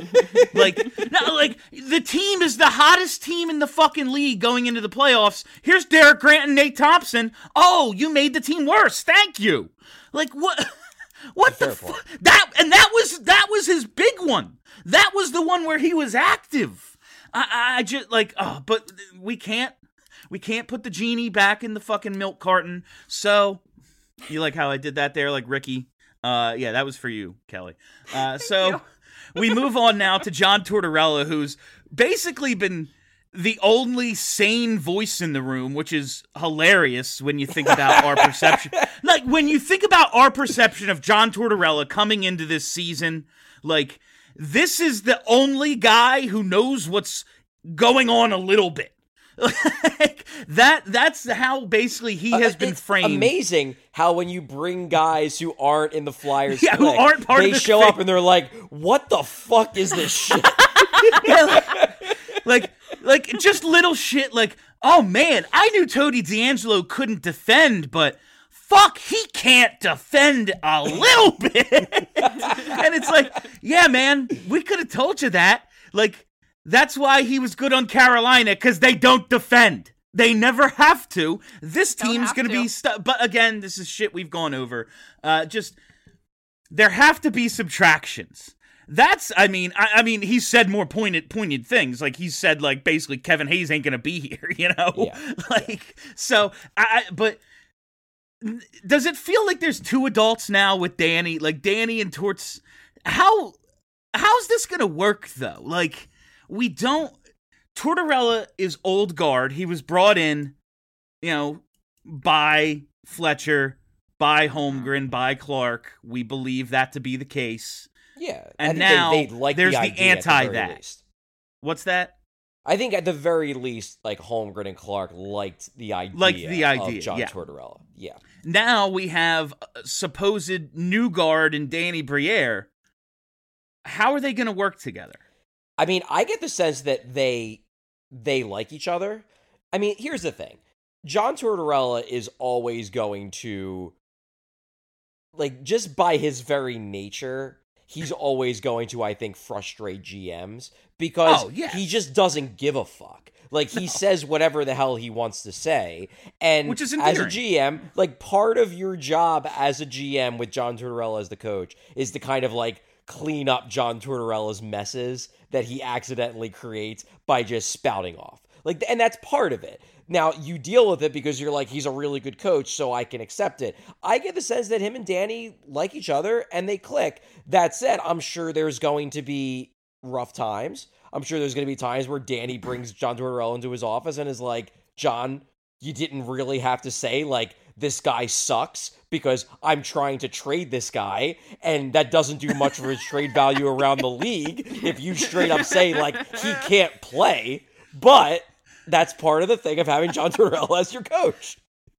The team is the hottest team in the fucking league going into the playoffs. Here's Derek Grant and Nate Thompson. Oh, you made the team worse. Thank you. Like, what? What the fuck? That was his big one. That was the one where he was active. I just but we can't put the genie back in the fucking milk carton. So you like how I did that there, like Ricky? Yeah, that was for you, Kelly. So we move on now to John Tortorella, who's basically been the only sane voice in the room, which is hilarious when you think about our perception. Like, when you think about our perception of John Tortorella coming into this season, like, this is the only guy who knows what's going on a little bit. Like, that's how basically he has been framed. Amazing how when you bring guys who aren't in the Flyers who aren't part they of this show thing. up and they're like, what the fuck is this shit? like just little shit like, oh man, I knew Tony D'Angelo couldn't defend, but fuck, he can't defend a little bit. And it's like, yeah, man, we could have told you that. Like, that's why he was good on Carolina, because they don't defend. They never have to. This team's going to be stuck. But again, this is shit we've gone over. There have to be subtractions. That's, I mean, he's said more poignant things. Like, he's said, like, basically Kevin Hayes ain't going to be here, you know? Yeah. So, but does it feel like there's two adults now with Danny? Like, Danny and Torts, how's this going to work, though? Like, Tortorella is old guard. He was brought in, you know, by Fletcher, by Holmgren, by Clark. We believe that to be the case. Yeah. And now like there's the anti the that. least. What's that? I think at the very least, like, Holmgren and Clark liked the idea of John Tortorella. Yeah. Now we have a supposed new guard in Danny Briere. How are they going to work together? I mean, I get the sense that they like each other. I mean, here's the thing. John Tortorella is always going to, like, just by his very nature, he's always going to, I think, frustrate GMs because he just doesn't give a fuck. Like, he says whatever the hell he wants to say. And which is as a GM, like, part of your job as a GM with John Tortorella as the coach is to kind of, like, clean up John Tortorella's messes that he accidentally creates by just spouting off. Like, and that's part of it. Now, you deal with it because you're like, he's a really good coach, so I can accept it. I get the sense that him and Danny like each other and they click. That said, I'm sure there's going to be rough times. I'm sure there's going to be times where Danny brings John Tortorella into his office and is like, John, you didn't really have to say, like, this guy sucks because I'm trying to trade this guy, and that doesn't do much for his trade value around the league if you straight up say, like, he can't play. But that's part of the thing of having John Tortorella as your coach.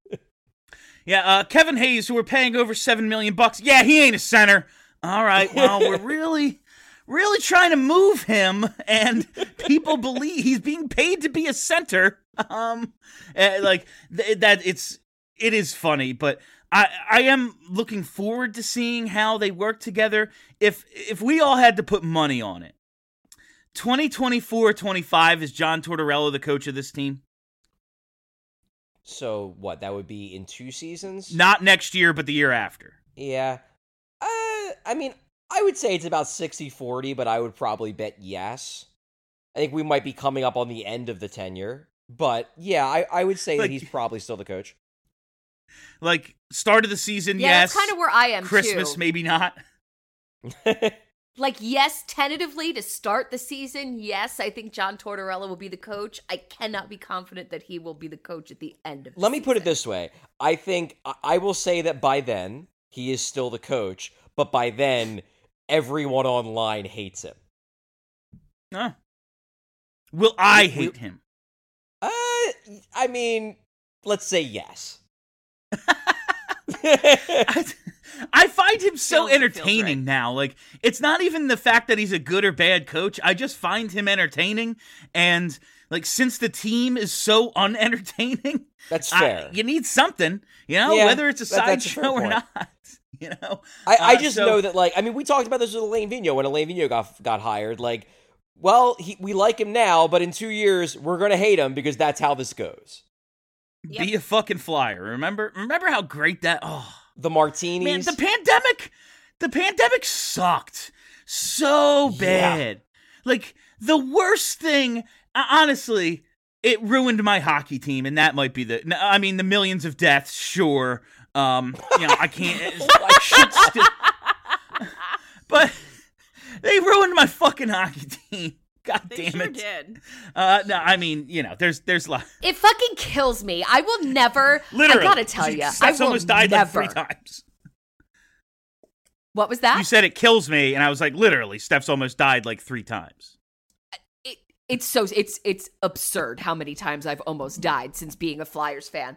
Yeah, Kevin Hayes, who we're paying over $7 million. Yeah, he ain't a center. All right, well, we're really trying to move him, and people believe he's being paid to be a center. It is funny, but I am looking forward to seeing how they work together. If we all had to put money on it, 2024-25 is John Tortorella the coach of this team? So what? That would be in 2 seasons? Not next year, but the year after. Yeah. I mean, I would say it's about 60-40, but I would probably bet yes. I think we might be coming up on the end of the tenure. But yeah, I would say that he's probably still the coach. Like, start of the season, Yeah, yes. that's kind of where I am Christmas, too. maybe not. Like, yes, tentatively to start the season, yes, I think John Tortorella will be the coach. I cannot be confident that he will be the coach at the end of the Let me put it season. this way. I think I will say that by then he is still the coach, but by then everyone online hates him. No. Will I hate him? I mean, let's say yes. I find him so Feels entertaining right. now. Like, it's not even the fact that he's a good or bad coach. I just find him entertaining. And, like, since the team is so unentertaining, That's fair. you need something, Yeah, whether it's a that's a fair sideshow or point. not. I just so- know that, like, I mean, we talked about this with Elaine Vigneault when Elaine Vigneault got hired. Like, well, we like him now, but in 2 years, we're going to hate him because that's how this goes. Be a fucking flyer. Remember how great that. Oh The martinis. man, the pandemic sucked so bad. Like, the worst thing, honestly, it ruined my hockey team, and that might be the millions of deaths, sure. I can't. Shit but they ruined my fucking hockey team. God They damn sure it. did. No, I mean, there's It fucking kills me. I will never. literally. I gotta tell you, I Steph's will almost died never. like 3 times. What was that? You said it kills me, and I was like, literally, Steph's almost died like 3 times. It's absurd how many times I've almost died since being a Flyers fan.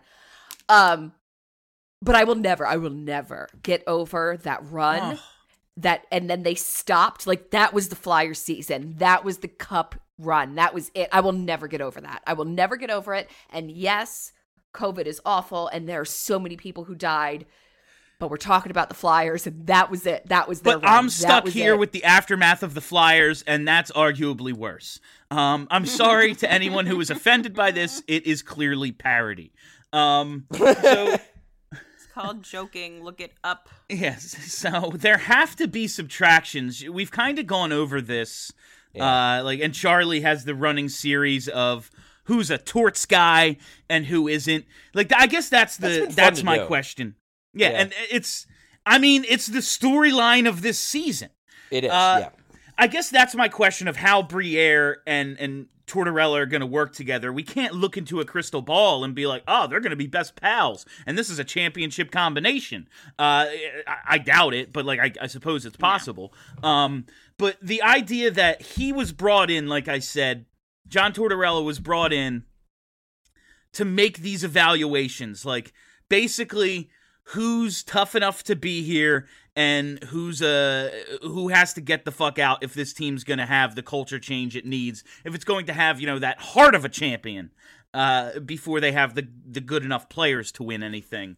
But I will never get over that run. And then they stopped. Like, that was the Flyers season. That was the Cup run. That was it. I will never get over that. I will never get over it. And yes, COVID is awful, and there are so many people who died. But we're talking about the Flyers, and that was it. That was their But run. I'm That stuck was here it. with the aftermath of the Flyers, and that's arguably worse. I'm sorry to anyone who was offended by this. It is clearly parody. So It's called joking. Look it up. yes, so there have to be subtractions. We've kind of gone over this, and Charlie has the running series of who's a torts guy and who isn't. Like, I guess that's been fun that's to my do. question. Yeah, Yeah. and it's the storyline of this season. It is, yeah. I guess that's my question of how Briere and Tortorella are going to work together. We can't look into a crystal ball and be like, oh, they're going to be best pals, and this is a championship combination. I doubt it, but like I suppose it's possible. But the idea that he was brought in, like I said, John Tortorella was brought in to make these evaluations, like basically who's tough enough to be here and who has to get the fuck out if this team's going to have the culture change it needs, if it's going to have, that heart of a champion before they have the good enough players to win anything.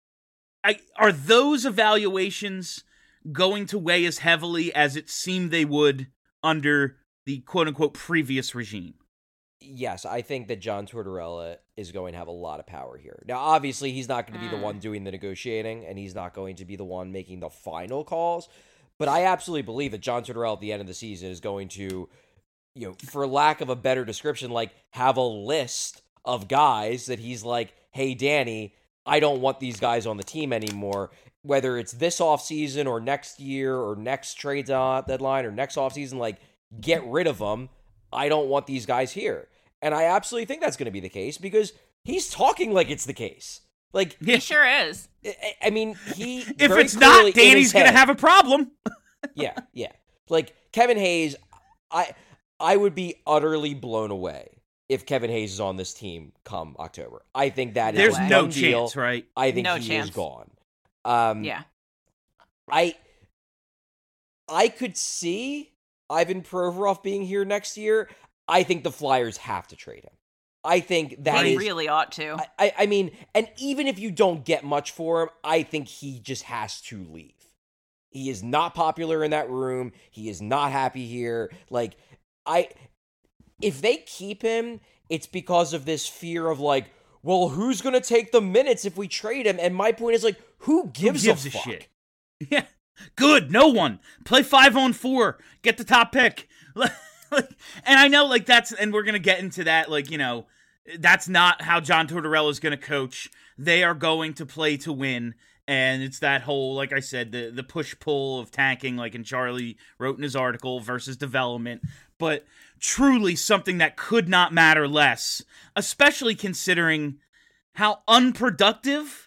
Are those evaluations going to weigh as heavily as it seemed they would under the quote-unquote previous regime? Yes, I think that John Tortorella is going to have a lot of power here. Now, obviously, he's not going to be the one doing the negotiating, and he's not going to be the one making the final calls. But I absolutely believe that John Tortorella at the end of the season is going to, for lack of a better description, like have a list of guys that he's like, hey, Danny, I don't want these guys on the team anymore. Whether it's this offseason or next year or next trade deadline or next offseason, like, get rid of them. I don't want these guys here. And I absolutely think that's going to be the case because he's talking like it's the case. Like, He sure is. I mean, he If very it's clearly not, in Danny's his going to head- have a problem. Yeah. Like, Kevin Hayes, I would be utterly blown away if Kevin Hayes is on this team come October. I think that is There's a no done deal. chance, right? I think No he chance. is gone. Yeah. I could see Ivan Provorov being here next year. I think the Flyers have to trade him. I think that They is really ought to. I mean, and even if you don't get much for him, I think he just has to leave. He is not popular in that room. He is not happy here. Like, if they keep him, it's because of this fear of like, well, who's going to take the minutes if we trade him? And my point is like, who gives a fuck? shit? Yeah. Good. No one. Play 5-on-4. Get the top pick. And I know, like, and we're going to get into that, like, That's not how John Tortorella is going to coach. They are going to play to win. And it's that whole, like I said, the push-pull of tanking, like in Charlie wrote in his article, versus development. But truly something that could not matter less, especially considering how unproductive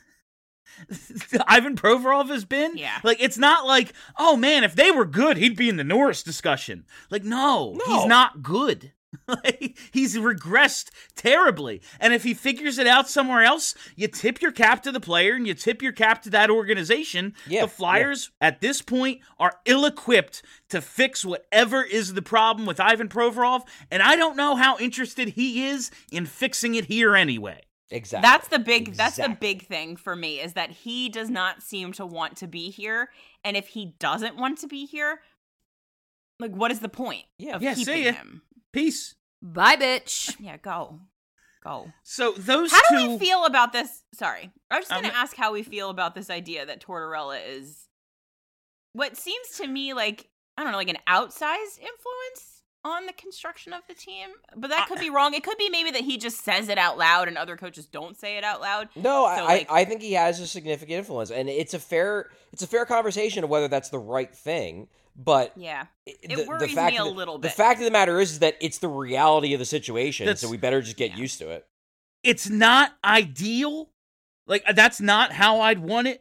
Ivan Provorov has been. Yeah. Like, it's not like, oh man, if they were good, he'd be in the Norris discussion. Like, no. He's not good. Like, he's regressed terribly. And if he figures it out somewhere else, you tip your cap to the player and you tip your cap to that organization. Yeah, the Flyers, at this point, are ill-equipped to fix whatever is the problem with Ivan Provorov, and I don't know how interested he is in fixing it here anyway. Exactly. That's the big thing for me, is that he does not seem to want to be here. And if he doesn't want to be here, like, what is the point of see keeping ya. him? Peace. Bye, bitch. Yeah, go. So those How two... do we feel about this? Sorry. I was just going to ask how we feel about this idea that Tortorella is what seems to me like, I don't know, like an outsized influence on the construction of the team. But that could be wrong. It could be maybe that he just says it out loud and other coaches don't say it out loud. No, So, I think he has a significant influence, and it's a fair conversation of whether that's the right thing. But yeah, it it worries me a little bit. The fact of the matter is that it's the reality of the situation, so we better just get used to it. It's not ideal. Like, that's not how I'd want it.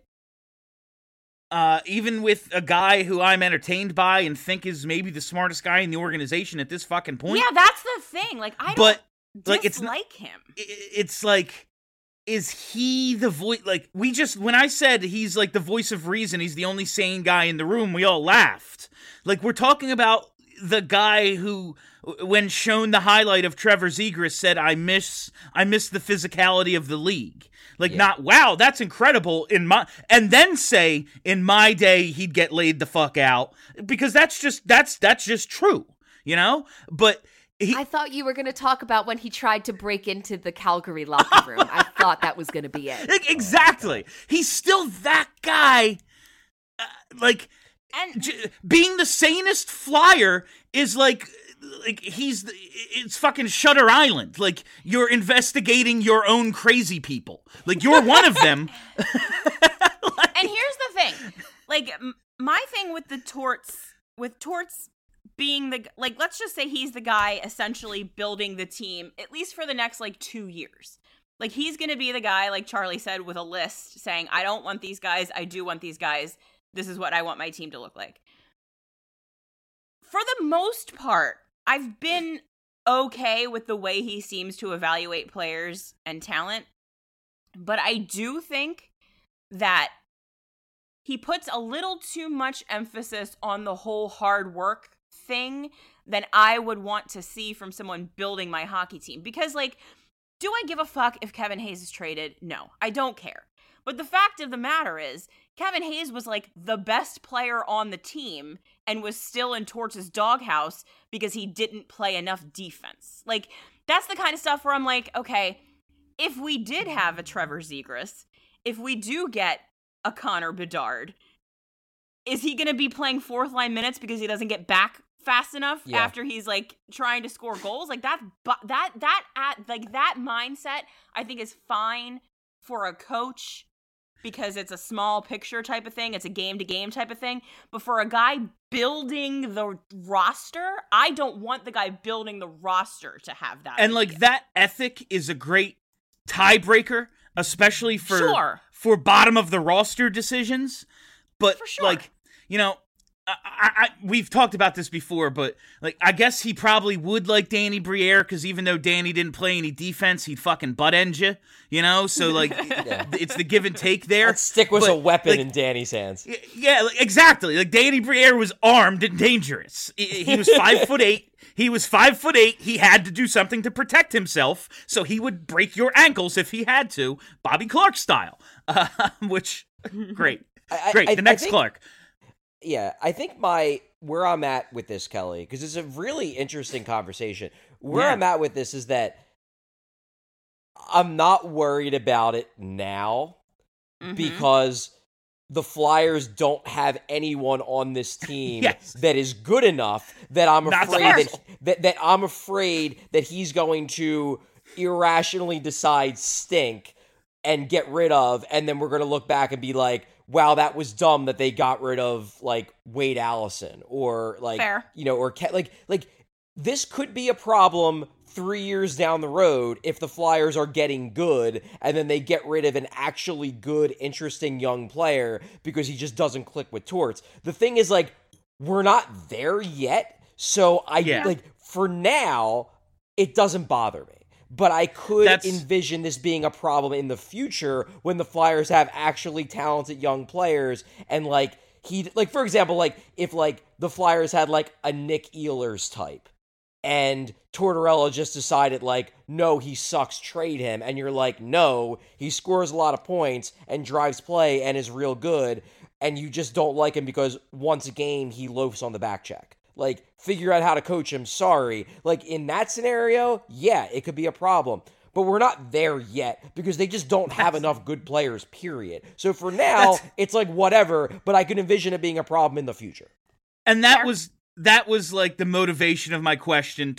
Even with a guy who I'm entertained by and think is maybe the smartest guy in the organization at this fucking point. Yeah, that's the thing. Like, I don't dislike him. It's like, is he the voice? Like, when I said he's like the voice of reason, he's the only sane guy in the room, we all laughed. Like, we're talking about the guy who, when shown the highlight of Trevor Zegras, said, I miss the physicality of the league. Like, not, wow, that's incredible, and then say, in my day, he'd get laid the fuck out. Because that's just true, you know? But I thought you were going to talk about when he tried to break into the Calgary locker room. I thought that was going to be it. Exactly. He's still that guy. Being the sanest Flyer is like it's fucking Shutter Island. Like, you're investigating your own crazy people. Like, you're one of them. And here's the thing. Like, my thing with Torts being let's just say he's the guy essentially building the team, at least for the next, 2 years. Like, he's going to be the guy, like Charlie said, with a list saying, I don't want these guys, I do want these guys, this is what I want my team to look like. For the most part, I've been okay with the way he seems to evaluate players and talent, but I do think that he puts a little too much emphasis on the whole hard work thing than I would want to see from someone building my hockey team. Because, do I give a fuck if Kevin Hayes is traded? No, I don't care. But the fact of the matter is, Kevin Hayes was the best player on the team and was still in Torts' doghouse because he didn't play enough defense. That's the kind of stuff where I'm like, okay, if we did have a Trevor Zegras, if we do get a Connor Bedard, is he going to be playing fourth line minutes because he doesn't get back fast enough after he's trying to score goals? That mindset I think is fine for a coach, because it's a small picture type of thing. It's a game-to-game type of thing. But for a guy building the roster, I don't want the guy building the roster to have that. And, idea. that ethic is a great tiebreaker, especially for bottom-of-the-roster decisions. But, for sure. We've talked about this before, but I guess he probably would like Danny Briere, because even though Danny didn't play any defense, he'd fucking butt end you, you know? So it's the give and take there. That stick was a weapon in Danny's hands. Yeah, exactly. Danny Briere was armed and dangerous. He was 5'8". He was 5'8". He had to do something to protect himself, so he would break your ankles if he had to, Bobby Clark style. Which great, the next Clark. Yeah, I think where I'm at with this, Kelly, because it's a really interesting conversation. Where I'm at with this is that I'm not worried about it now because the Flyers don't have anyone on this team that is good enough that I'm afraid that I'm afraid that he's going to irrationally decide stink and get rid of, and then we're going to look back and be like, wow, that was dumb that they got rid of, like, Wade Allison, or, like, Fair. you know, or, like, this could be a problem 3 years down the road if the Flyers are getting good, and then they get rid of an actually good, interesting young player because he just doesn't click with Torts. The thing is, like, we're not there yet, so like, for now, it doesn't bother me. But I could envision this being a problem in the future when the Flyers have actually talented young players, and, like, for example, like, if, like, the Flyers had, like, a Nick Ehlers type, and Tortorella just decided, like, no, he sucks, trade him, and you're like, no, he scores a lot of points and drives play and is real good, and you just don't like him because once a game he loafs on the back check. Like, figure out how to coach him, sorry. Like, in that scenario, yeah, it could be a problem. But we're not there yet because they just don't have enough good players, period. So for now, it's like whatever, but I can envision it being a problem in the future. And that was like the motivation of my question.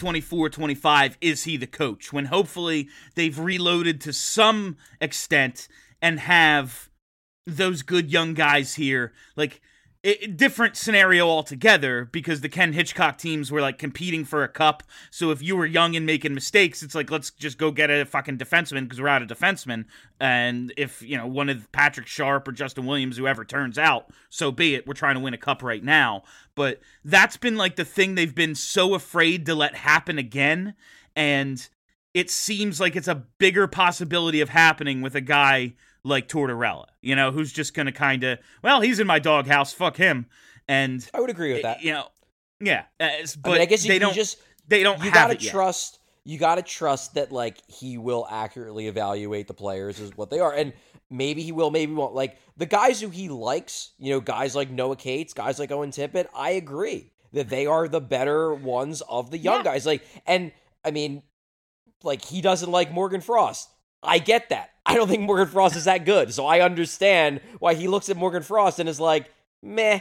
2024-25, is he the coach? When hopefully they've reloaded to some extent and have those good young guys here. Like, different scenario altogether, because the Ken Hitchcock teams were, like, competing for a cup. So if you were young and making mistakes, it's like, let's just go get a fucking defenseman because we're out of defensemen. And if, you know, one of Patrick Sharp or Justin Williams, whoever turns out, so be it. We're trying to win a cup right now. But that's been, like, the thing they've been so afraid to let happen again. And it seems like it's a bigger possibility of happening with a guy like Tortorella, you know, who's just going to kind of, well, he's in my doghouse, fuck him. And I would agree with that. You know, yeah. But I mean, I guess they don't you have gotta it yet. You got to trust that, like, he will accurately evaluate the players as what they are. And maybe he will, maybe he won't. Like, the guys who he likes, you know, guys like Noah Cates, guys like Owen Tippett, I agree that they are the better ones of the young guys. Like, and I mean, like, he doesn't like Morgan Frost. I get that. I don't think Morgan Frost is that good. So I understand why he looks at Morgan Frost and is like, meh.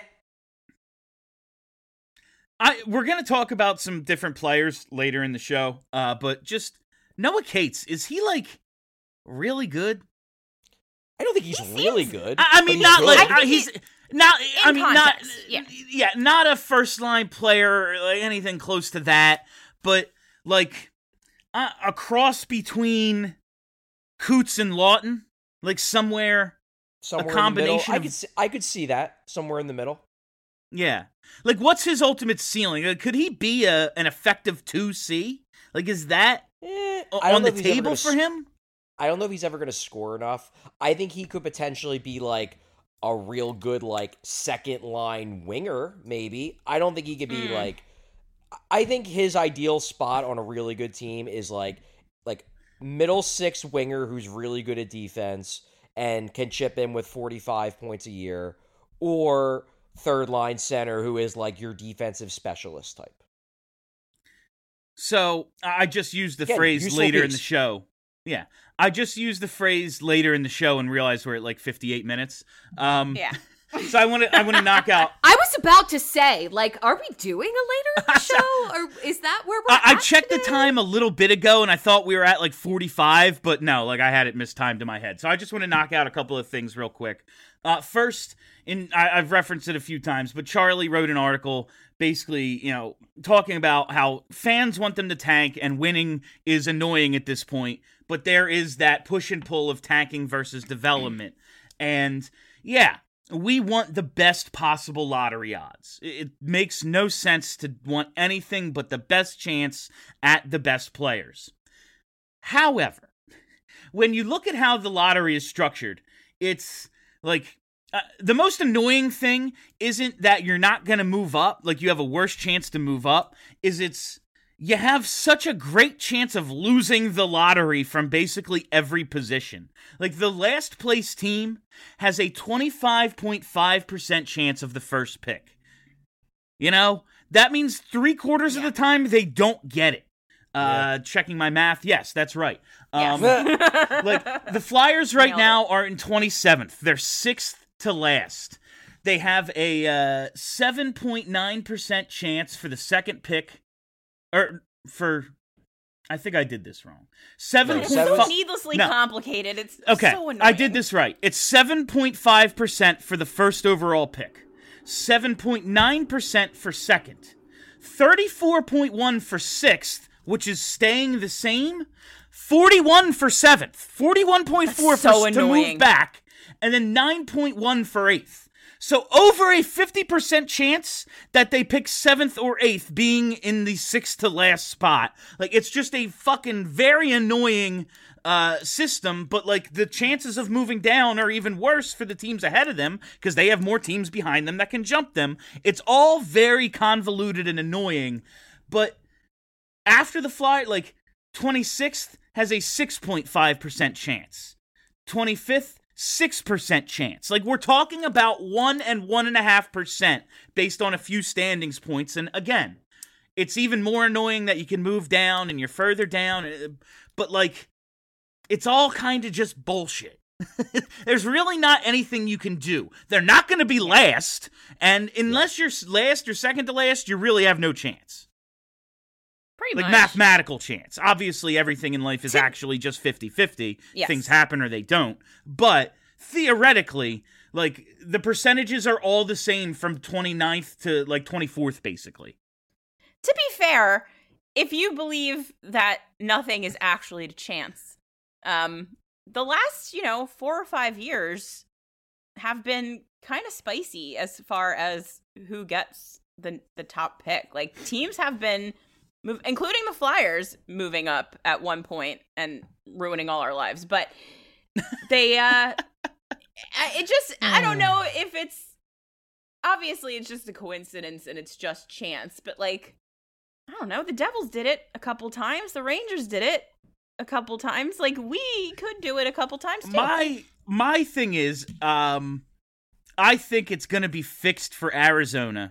We're going to talk about some different players later in the show, but just Noah Cates, is he, like, really good? I don't think he's really good. I mean, not good. like he's not. I mean, context, not a first line player or like anything close to that, but like a cross between Coots and Lawton, like somewhere a combination. In the middle. I could see that somewhere in the middle. Yeah, like what's his ultimate ceiling? Like, could he be an effective 2C? Like, is that on the table for him? I don't know if he's ever going to score enough. I think he could potentially be like a real good, like, second line winger, maybe. I don't think he could be like. I think his ideal spot on a really good team is like middle six winger who's really good at defense and can chip in with 45 points a year, or third line center who is like your defensive specialist type. So I just used the phrase later in the show. Yeah. I just used the phrase later in the show and realized we're at like 58 minutes. Yeah. So I want to knock out. I was about to say, like, are we doing a later in the show, or is that where we're at I checked today? the time a little bit ago, and I thought we were at like 45, but no, like I had it mistimed in my head. So I just want to knock out a couple of things real quick. First, I've referenced it a few times, but Charlie wrote an article basically, you know, talking about how fans want them to tank and winning is annoying at this point, but there is that push and pull of tanking versus development. And yeah, we want the best possible lottery odds. It makes no sense to want anything but the best chance at the best players. However, when you look at how the lottery is structured, it's like the most annoying thing isn't that you're not going to move up, like you have a worse chance to move up, is you have such a great chance of losing the lottery from basically every position. Like, the last place team has a 25.5% chance of the first pick. You know? That means 3/4 of the time they don't get it. Checking my math. Yes, that's right. Like, the Flyers right now are in 27th. They're 6th to last. They have a 7.9% chance for the second pick. Or for I think I did this wrong. It's 7.5 so needlessly No. complicated. It's Okay, so annoying. I did this right. It's 7.5% for the first overall pick, 7.9% for second, 34.1 for sixth, which is staying the same, 41 for seventh, 41.4 That's so to move annoying. back, and then 9.1 for eighth. So over a 50% chance that they pick seventh or eighth being in the sixth to last spot. Like, it's just a fucking very annoying system, but like the chances of moving down are even worse for the teams ahead of them because they have more teams behind them that can jump them. It's all very convoluted and annoying, but after the fly, like 26th has a 6.5% chance. 25th, 6% chance. Like, we're talking about 1 and 1.5% based on a few standings points. And again, it's even more annoying that you can move down and you're further down. But like, it's all kind of just bullshit. There's really not anything you can do. They're not going to be last. And unless you're last or second to last, you really have no chance. Pretty Like, much. mathematical chance. Obviously, everything in life is actually just 50-50. Yes. Things happen or they don't. But theoretically, like, the percentages are all the same from 29th to, like, 24th, basically. To be fair, if you believe that nothing is actually to chance, the last, 4 or 5 years have been kind of spicy as far as who gets the top pick. Like, teams have been including the Flyers moving up at one point and ruining all our lives. But they, I don't know if obviously it's just a coincidence and it's just chance. But like, I don't know, the Devils did it a couple times. The Rangers did it a couple times. Like, we could do it a couple times too. My thing is, I think it's going to be fixed for Arizona.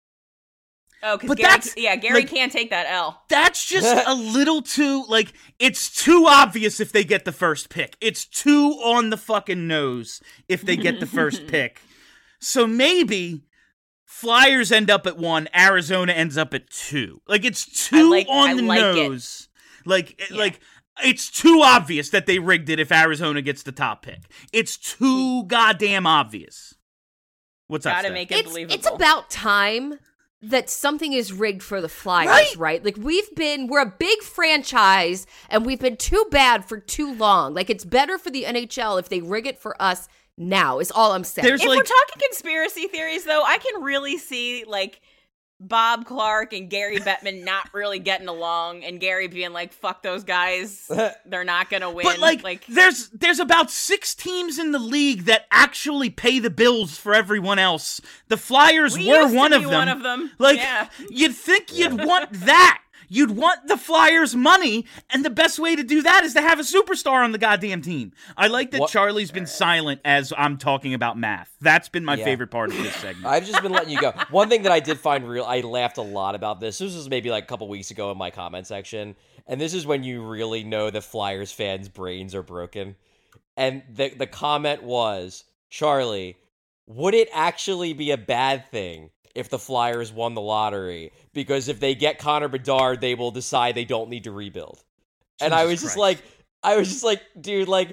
Oh, because Gary like, can't take that L. That's just a little too, like, it's too obvious if they get the first pick. It's too on the fucking nose if they get the first pick. So maybe Flyers end up at 1, Arizona ends up at 2. Like, it's too on the nose. Like, it's too obvious that they rigged it if Arizona gets the top pick. It's too goddamn obvious. What's up, Gotta Steph? make it believable. It's about time that something is rigged for the Flyers, right? Like, we're a big franchise, and we've been too bad for too long. Like, it's better for the NHL if they rig it for us now, is all I'm saying. If we're talking conspiracy theories, though, I can really see, like, Bob Clark and Gary Bettman not really getting along, and Gary being like, fuck those guys, they're not gonna win. But, like there's about 6 teams in the league that actually pay the bills for everyone else. The Flyers we were used to one be of them. one of them. Like, yeah. you'd think you'd want that. You'd want the Flyers' money, and the best way to do that is to have a superstar on the goddamn team. I like that Charlie's been silent as I'm talking about math. That's been my favorite part of this segment. I've just been letting you go. One thing that I did find I laughed a lot about this. This was maybe like a couple weeks ago in my comment section, and this is when you really know the Flyers fans' brains are broken. And the comment was, Charlie, would it actually be a bad thing if the Flyers won the lottery? Because if they get Connor Bedard, they will decide they don't need to rebuild. And I was just like, dude, like,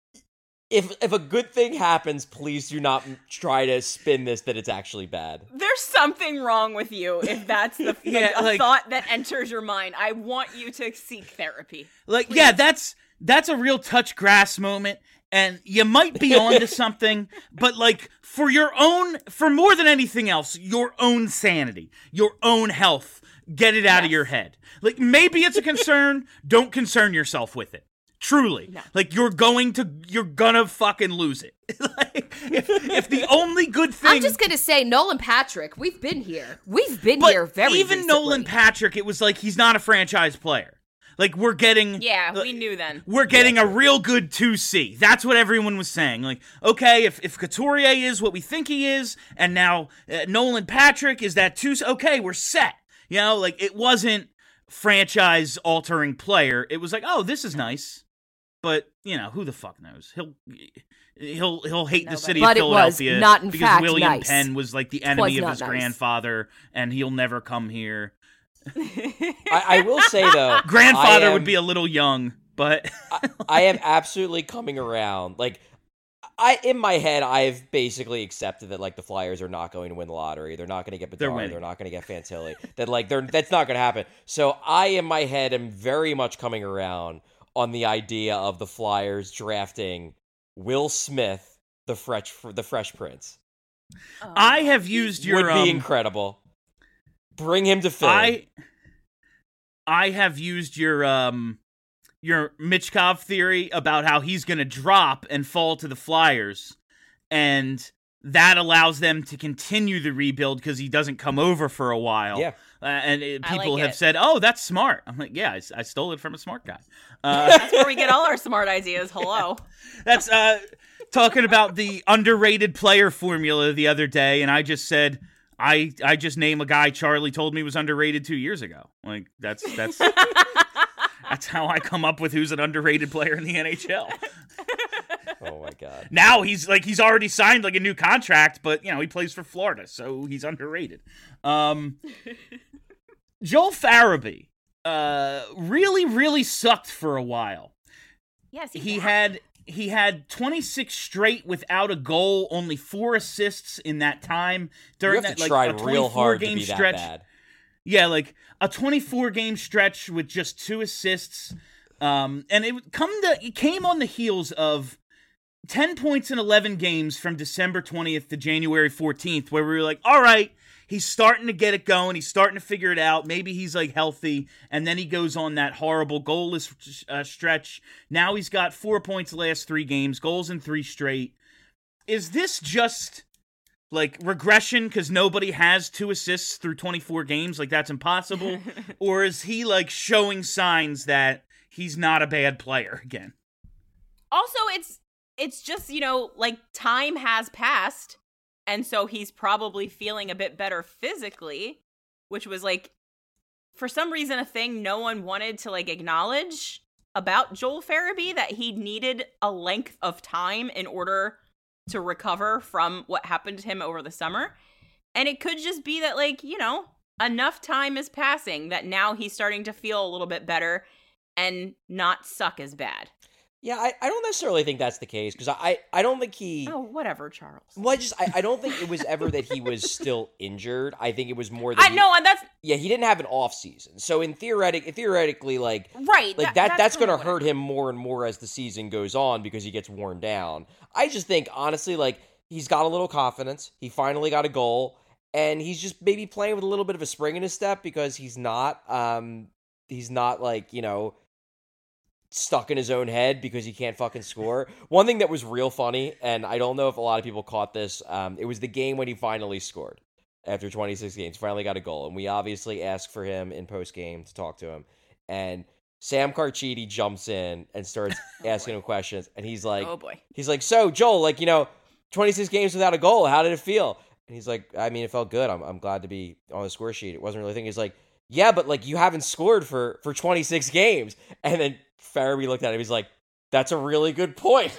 if a good thing happens, please do not try to spin this that it's actually bad. There's something wrong with you if that's the thought that enters your mind. I want you to seek therapy. Like, yeah, that's a real touch grass moment. And you might be onto something, but like for more than anything else, your own sanity, your own health, get it out of your head. Like, maybe it's a concern, don't concern yourself with it. Truly. No. Like, you're gonna fucking lose it. Like, if the only good thing... I'm just gonna say, Nolan Patrick, we've been here. We've been here very even recently. Nolan Patrick, it was like, he's not a franchise player. Like, we're getting... Yeah, we knew then. We're getting a real good 2C. That's what everyone was saying. Like, okay, if Couturier is what we think he is, and now Nolan Patrick is that 2C, okay, we're set. You know, like, it wasn't franchise-altering player. It was like, oh, this is nice. But, you know, who the fuck knows? He'll hate the city of Philadelphia. It was not, in because fact, William nice. Penn was, like, the enemy of his grandfather, and he'll never come here. I will say though, Grandfather would be a little young, but I am absolutely coming around. Like, in my head, I've basically accepted that like the Flyers are not going to win the lottery. They're not going to get Bedard. They're not going to get Fantilli. That like that's not going to happen. So I, in my head, am very much coming around on the idea of the Flyers drafting Will Smith, the Fresh Prince. I have used your would be incredible. Bring him to Philly. I have used your Michkov theory about how he's going to drop and fall to the Flyers, and that allows them to continue the rebuild because he doesn't come over for a while. Yeah. People have said, "Oh, that's smart." I'm like, "Yeah, I stole it from a smart guy." That's where we get all our smart ideas. Hello. That's talking about the underrated player formula the other day, and I just said, I just name a guy Charlie told me was underrated 2 years ago. Like that's that's how I come up with who's an underrated player in the NHL. Oh my god! Now he's already signed like a new contract, but he plays for Florida, so he's underrated. Joel Farabee really, really sucked for a while. Yes, he had 26 straight without a goal, only 4 assists in that time during you have that to try a real hard game to be stretch. that bad. Yeah, like a 24-game stretch with just 2 assists, and it came on the heels of 10 points in 11 games from December 20th to January 14th, where we were like, all right, he's starting to get it going. He's starting to figure it out. Maybe he's like healthy. And then he goes on that horrible goalless stretch. Now he's got 4 points the last 3 games, goals in 3 straight. Is this just like regression because nobody has 2 assists through 24 games? Like that's impossible. Or is he like showing signs that he's not a bad player again? Also, it's just, like time has passed. And so he's probably feeling a bit better physically, which was like, for some reason, a thing no one wanted to like acknowledge about Joel Farabee, that he needed a length of time in order to recover from what happened to him over the summer. And it could just be that like, enough time is passing that now he's starting to feel a little bit better and not suck as bad. Yeah, I don't necessarily think that's the case, because I don't think he... Oh, whatever, Charles. Well, I don't think it was ever that he was still injured. I think it was more that and that's... Yeah, he didn't have an off season. So theoretically, like... Right. Like that's going to hurt him more and more as the season goes on because he gets worn down. I just think, honestly, like, he's got a little confidence. He finally got a goal. And he's just maybe playing with a little bit of a spring in his step because he's not like, stuck in his own head because he can't fucking score. One thing that was real funny, and I don't know if a lot of people caught this, it was the game when he finally scored after 26 games, finally got a goal. And we obviously asked for him in post-game to talk to him. And Sam Carchidi jumps in and starts asking him questions. And he's like, oh boy. He's like, so Joel, like, 26 games without a goal, how did it feel? And he's like, I mean, it felt good. I'm glad to be on the score sheet. It wasn't really a thing. He's like, yeah, but like you haven't scored for 26 games. And then Farabee looked at him. He's like, "That's a really good point."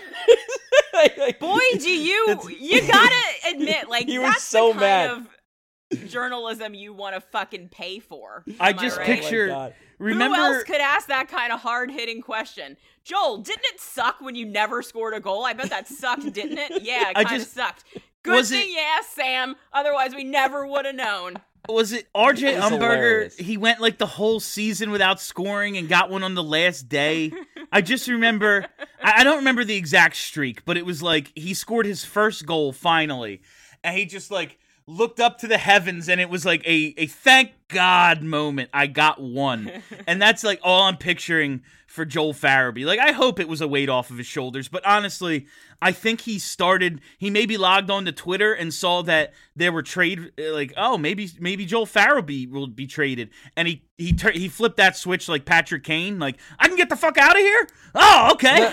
Boy, do you gotta admit, like he that's was so the kind mad. of journalism you want to fucking pay for. I Am just right? picture. Remember, who else could ask that kind of hard hitting question? Joel, didn't it suck when you never scored a goal? I bet that sucked, didn't it? Yeah, it kind of sucked. Good thing you asked, Sam. Otherwise, we never would have known. Was it RJ Umberger? Hilarious. He went like the whole season without scoring and got one on the last day. I just remember, I don't remember the exact streak, but it was like he scored his first goal finally. And he just like looked up to the heavens and it was like a thank God moment. I got one. And that's like all I'm picturing for Joel Farabee. Like, I hope it was a weight off of his shoulders, but honestly, I think he maybe logged on to Twitter and saw that there were maybe Joel Farabee will be traded. And he flipped that switch like Patrick Kane, like, I can get the fuck out of here? Oh, okay.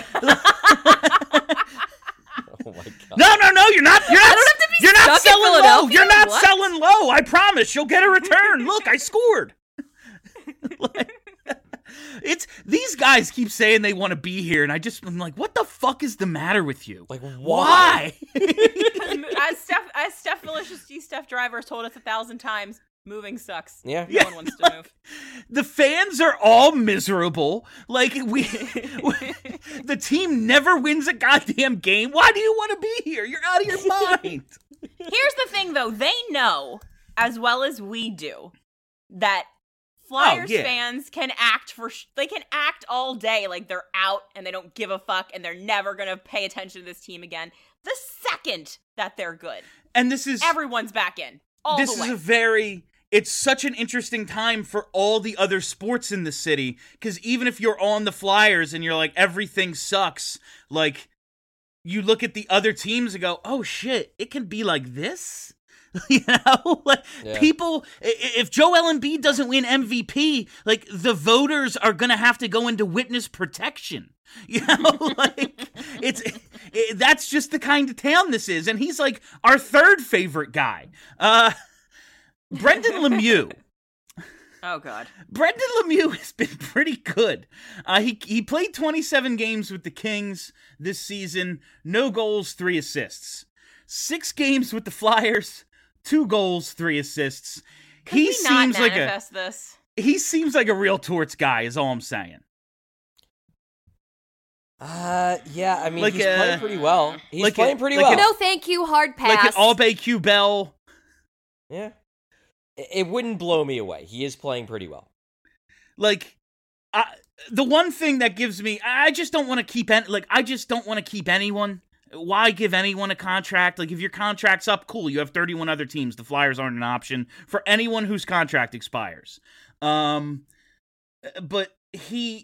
Oh my God. No, you're not stuck in selling low. Philadelphia? You're not What? selling low. I promise you'll get a return. Look, I scored. These guys keep saying they want to be here, and I'm like, what the fuck is the matter with you? Like, why? As Steph Delicious Steph Driver told us 1,000 times, Moving sucks. Yeah. No one wants to move. The fans are all miserable. Like the team never wins a goddamn game. Why do you want to be here? You're out of your mind. Here's the thing, though. They know, as well as we do, that Flyers fans can act they can act all day like they're out and they don't give a fuck and they're never going to pay attention to this team again. The second that they're good. And this is... Everyone's back in. All this the way. is a very... It's such an interesting time for all the other sports in the city, because even if you're on the Flyers and you're like, everything sucks, like, you look at the other teams and go, oh shit, it can be like this? You know? Like, people, if Joel Embiid doesn't win MVP, like, the voters are gonna have to go into witness protection. You know? Like, that's just the kind of town this is, and he's like our third favorite guy. Brendan Lemieux. Oh, God. Brendan Lemieux has been pretty good. He played 27 games with the Kings this season. No goals, 3 assists. 6 games with the Flyers. 2 goals, 3 assists. He seems like this. He seems like a real Torts guy, is all I'm saying. Yeah, I mean, like he's playing pretty well. He's like playing pretty well. No, thank you, hard pass. Like an Albay Q Bell. Yeah. It wouldn't blow me away. He is playing pretty well. Like, the one thing that gives me, I just don't want to keep, I just don't want to keep anyone. Why give anyone a contract? Like, if your contract's up, cool, you have 31 other teams. The Flyers aren't an option for anyone whose contract expires. But he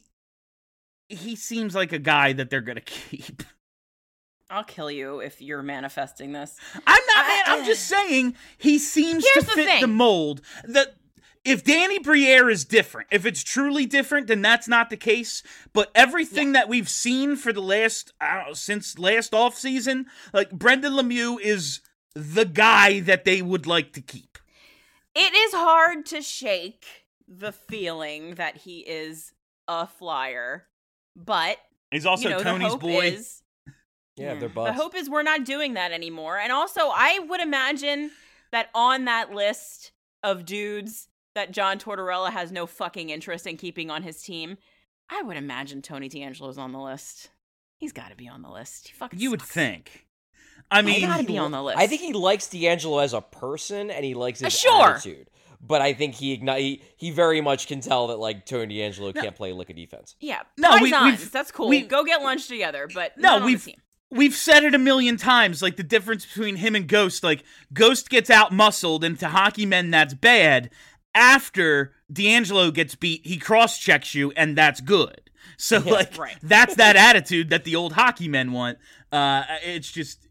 seems like a guy that they're going to keep. I'll kill you if you're manifesting this. I'm not, man. I'm just saying he seems to fit the mold. That if Danny Briere is different, if it's truly different, then that's not the case. But everything that we've seen for the last, since last offseason, like Brendan Lemieux is the guy that they would like to keep. It is hard to shake the feeling that he is a Flyer, but he's also Tony's boy. Yeah, they're buds. The hope is we're not doing that anymore. And also, I would imagine that on that list of dudes that John Tortorella has no fucking interest in keeping on his team, I would imagine Tony DeAngelo's on the list. He's got to be on the list. He fucking You would sucks. think. I mean, he got to be on the list. I think he likes DeAngelo as a person, and he likes his attitude. But I think he very much can tell that, like, Tony DeAngelo can't play lick of defense. Yeah, no, that's cool. Go get lunch together, but we've said it a million times, like, the difference between him and Ghost. Like, Ghost gets out-muscled, and to hockey men, that's bad. After DeAngelo gets beat, he cross-checks you, and that's good. So, that's that attitude that the old hockey men want. It's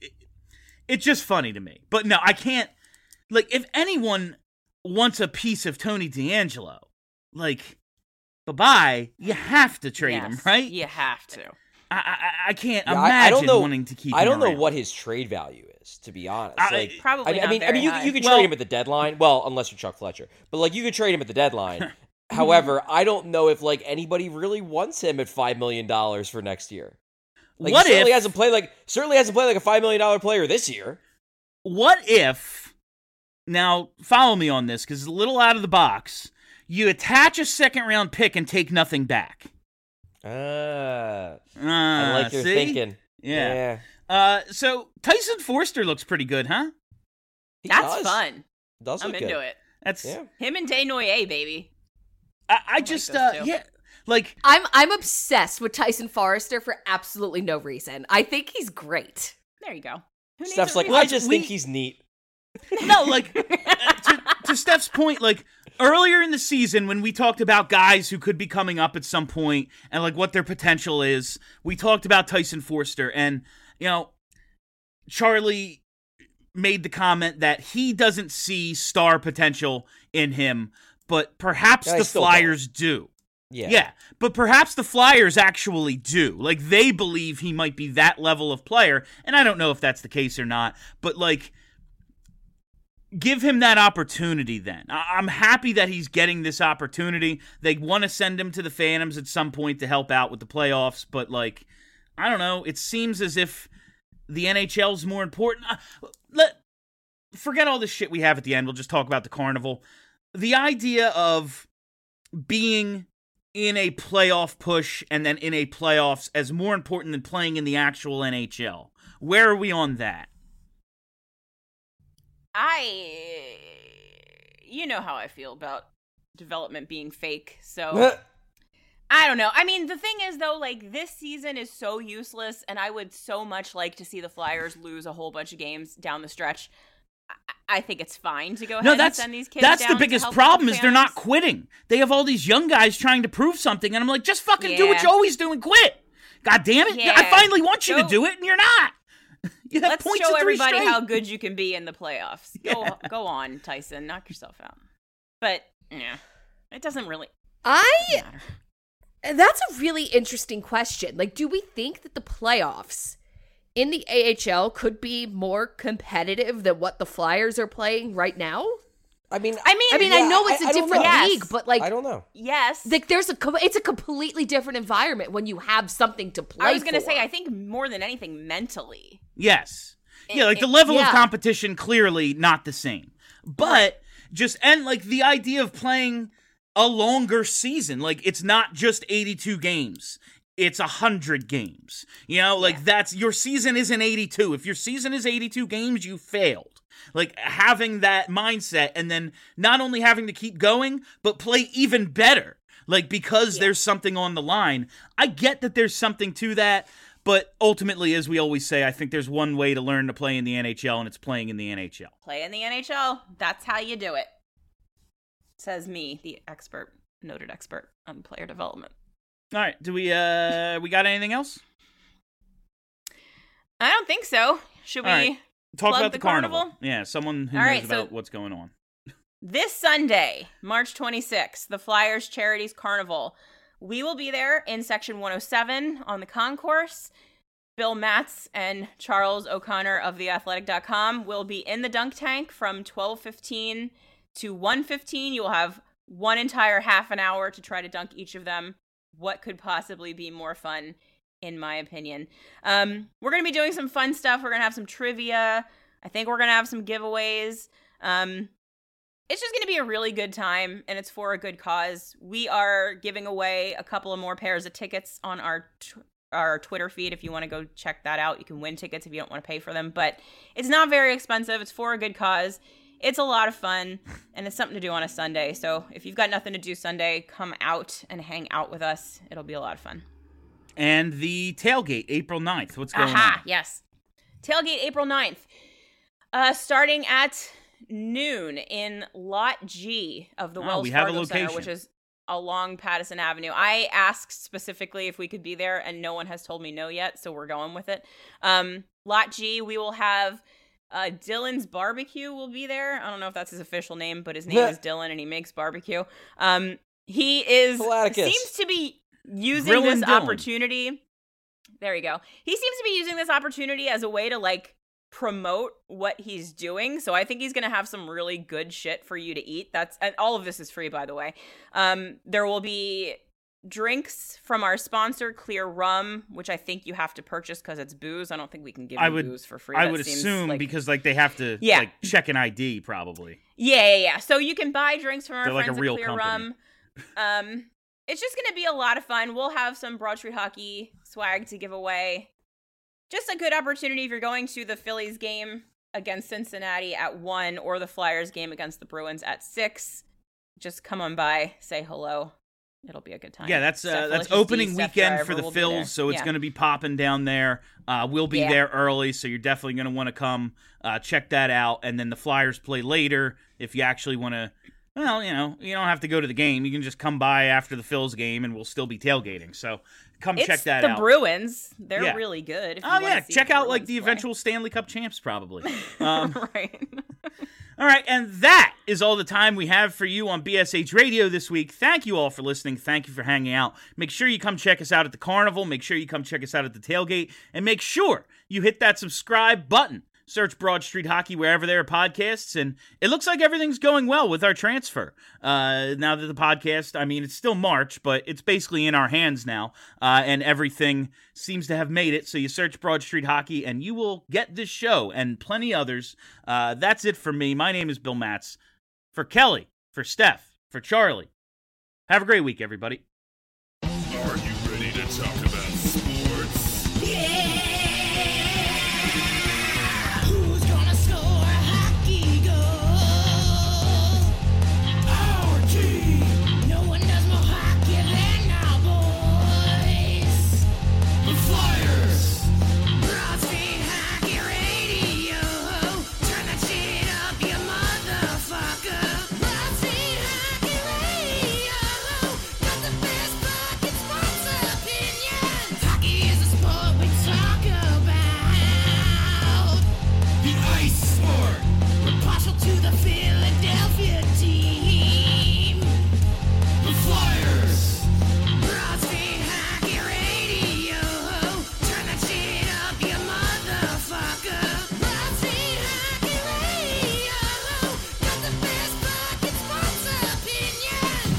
just funny to me. But no, I can't, like, if anyone wants a piece of Tony DeAngelo, like, bye-bye, you have to trade him, right? You have to. I can't imagine wanting to keep him I don't know around. what his trade value is, to be honest. Probably not very high. You could trade him at the deadline. Well, unless you're Chuck Fletcher. But, like, you could trade him at the deadline. However, I don't know if, like, anybody really wants him at $5 million for next year. Like, what he certainly if, hasn't played like a $5 million player this year. What if, now follow me on this, because it's a little out of the box, you attach a second-round pick and take nothing back? I like your thinking. Yeah. So Tyson Forster looks pretty good, huh? That's fun. I'm into it. That's him and Desnoyers, baby. I just like I'm obsessed with Tyson Forster for absolutely no reason. I think he's great. There you go. Steph's like, I just think he's neat. No, like to Steph's point, like earlier in the season when we talked about guys who could be coming up at some point and like what their potential is, we talked about Tyson Forster, and Charlie made the comment that he doesn't see star potential in him, but perhaps the Flyers do. Yeah, but perhaps the Flyers actually do. Like, they believe he might be that level of player, and I don't know if that's the case or not, but, like, give him that opportunity then. I'm happy that he's getting this opportunity. They want to send him to the Phantoms at some point to help out with the playoffs, but, like, I don't know. It seems as if the NHL's more important. Forget all this shit we have at the end. We'll just talk about the Carnival. the idea of being in a playoff push and then in a playoffs as more important than playing in the actual NHL. Where are we on that? You know how I feel about development being fake, so I don't know. I mean, the thing is, though, like, this season is so useless, and I would so much like to see the Flyers lose a whole bunch of games down the stretch. I think it's fine to go ahead and send these kids down. That's the biggest problem is they're not quitting. They have all these young guys trying to prove something, and I'm like, just fucking do what you always do and quit. God damn it. Yeah. I finally want you to do it, and you're not. You have Let's points show at 3 everybody straight. how good you can be in the playoffs. Go on, Tyson. Knock yourself out. But, yeah, it doesn't really matter. That's a really interesting question. Like, do we think that the playoffs in the AHL could be more competitive than what the Flyers are playing right now? I mean, I know it's a different league, but like, I don't know. Yes. Like, it's a completely different environment when you have something to play. I was going to for. say, I think more than anything, mentally. Yes. Yeah, like the level of yeah. competition clearly not the same. But like the idea of playing a longer season, like it's not just 82 games. It's 100 games. You know, like that's your season isn't 82. If your season is 82 games, you failed. Like having that mindset and then not only having to keep going, but play even better. Like because there's something on the line. I get that there's something to that. But ultimately, as we always say, I think there's one way to learn to play in the NHL, and it's playing in the NHL. Play in the NHL. That's how you do it. Says me, the noted expert on player development. All right, do we got anything else? I don't think so. Should we talk plug about the the carnival? Yeah, someone who knows about what's going on. This Sunday, March 26th, the Flyers Charities Carnival. We will be there in Section 107 on the concourse. Bill Matz and Charles O'Connor of theathletic.com will be in the dunk tank from 12:15 to 1:15. You will have one entire half an hour to try to dunk each of them. What could possibly be more fun, in my opinion? We're going to be doing some fun stuff. We're going to have some trivia. I think we're going to have some giveaways. It's just going to be a really good time, and it's for a good cause. We are giving away a couple of more pairs of tickets on our Twitter feed. If you want to go check that out, you can win tickets if you don't want to pay for them. But it's not very expensive. It's for a good cause. It's a lot of fun, and it's something to do on a Sunday. So if you've got nothing to do Sunday, come out and hang out with us. It'll be a lot of fun. And the tailgate, April 9th. What's going on? Yes. Tailgate, April 9th. Starting at noon in Lot G of the Wells Fargo Center, which is along Patterson Avenue. I asked specifically if we could be there, and no one has told me no yet, so we're going with it. Lot G, we will have Dylan's Barbecue will be there. I don't know if that's his official name, but his name is Dylan, and he makes barbecue. He seems to be using this opportunity. There you go. He seems to be using this opportunity as a way to, like, promote what he's doing. So I think he's going to have some really good shit for you to eat. And all of this is free, by the way. There will be drinks from our sponsor, Clear Rum, which I think you have to purchase because it's booze. I don't think we can give you booze for free. I would assume because like they have to like check an ID probably. Yeah. So you can buy drinks from our They're friends like a real at Clear company. Rum. It's just going to be a lot of fun. We'll have some Broad Street Hockey swag to give away. Just a good opportunity if you're going to the Phillies game against Cincinnati at 1 or the Flyers game against the Bruins at 6. Just come on by, say hello. It'll be a good time. Yeah, that's opening weekend for the Phils, so it's going to be popping down there. We'll be there early, so you're definitely going to want to come check that out. And then the Flyers play later if you actually want to. Well, you know, you don't have to go to the game. You can just come by after the Phils game, and we'll still be tailgating. So come check that out. It's the Bruins. They're really good. If you check out like the eventual Stanley Cup champs, probably. Right. All right, and that is all the time we have for you on BSH Radio this week. Thank you all for listening. Thank you for hanging out. Make sure you come check us out at the Carnival. Make sure you come check us out at the tailgate. And make sure you hit that subscribe button. Search Broad Street Hockey wherever there are podcasts, and it looks like everything's going well with our transfer. Now that the podcast, I mean, it's still March, but it's basically in our hands now, and everything seems to have made it. So you search Broad Street Hockey, and you will get this show and plenty others. That's it for me. My name is Bill Matz. For Kelly, for Steph, for Charlie. Have a great week, everybody. Are you ready to talk about sports? Who's gonna score a hockey goal? Our team. No one does more hockey than our boys. The Flyers. Broad Street Hockey Radio. Turn that shit up, you motherfucker. Broad Street Hockey Radio. Got the best fucking sports opinions. Hockey is a sport we talk about. The ice sport. We're partial to the Philadelphia team. The Flyers. Broad Street Hockey Radio. Turn that shit up, you motherfucker. Broad Street Hockey Radio. Got the best fucking sports opinions.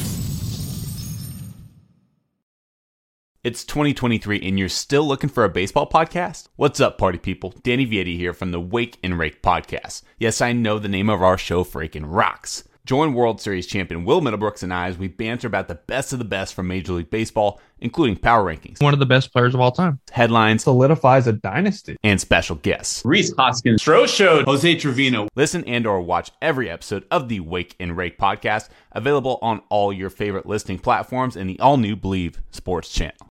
It's 2023 and you're still looking for a baseball podcast? What's up, party people? Danny Vietti here from the Wake and Rake podcast. Yes, I know the name of our show freaking rocks. Join World Series champion Will Middlebrooks and I as we banter about the best of the best from Major League Baseball, including power rankings, One of the best players of all time. headlines, Solidifies a dynasty. and special guests. Reese Hoskins, Stro Showed, Jose Trevino. Listen and or watch every episode of the Wake and Rake podcast, available on all your favorite listening platforms and the all-new Believe Sports channel.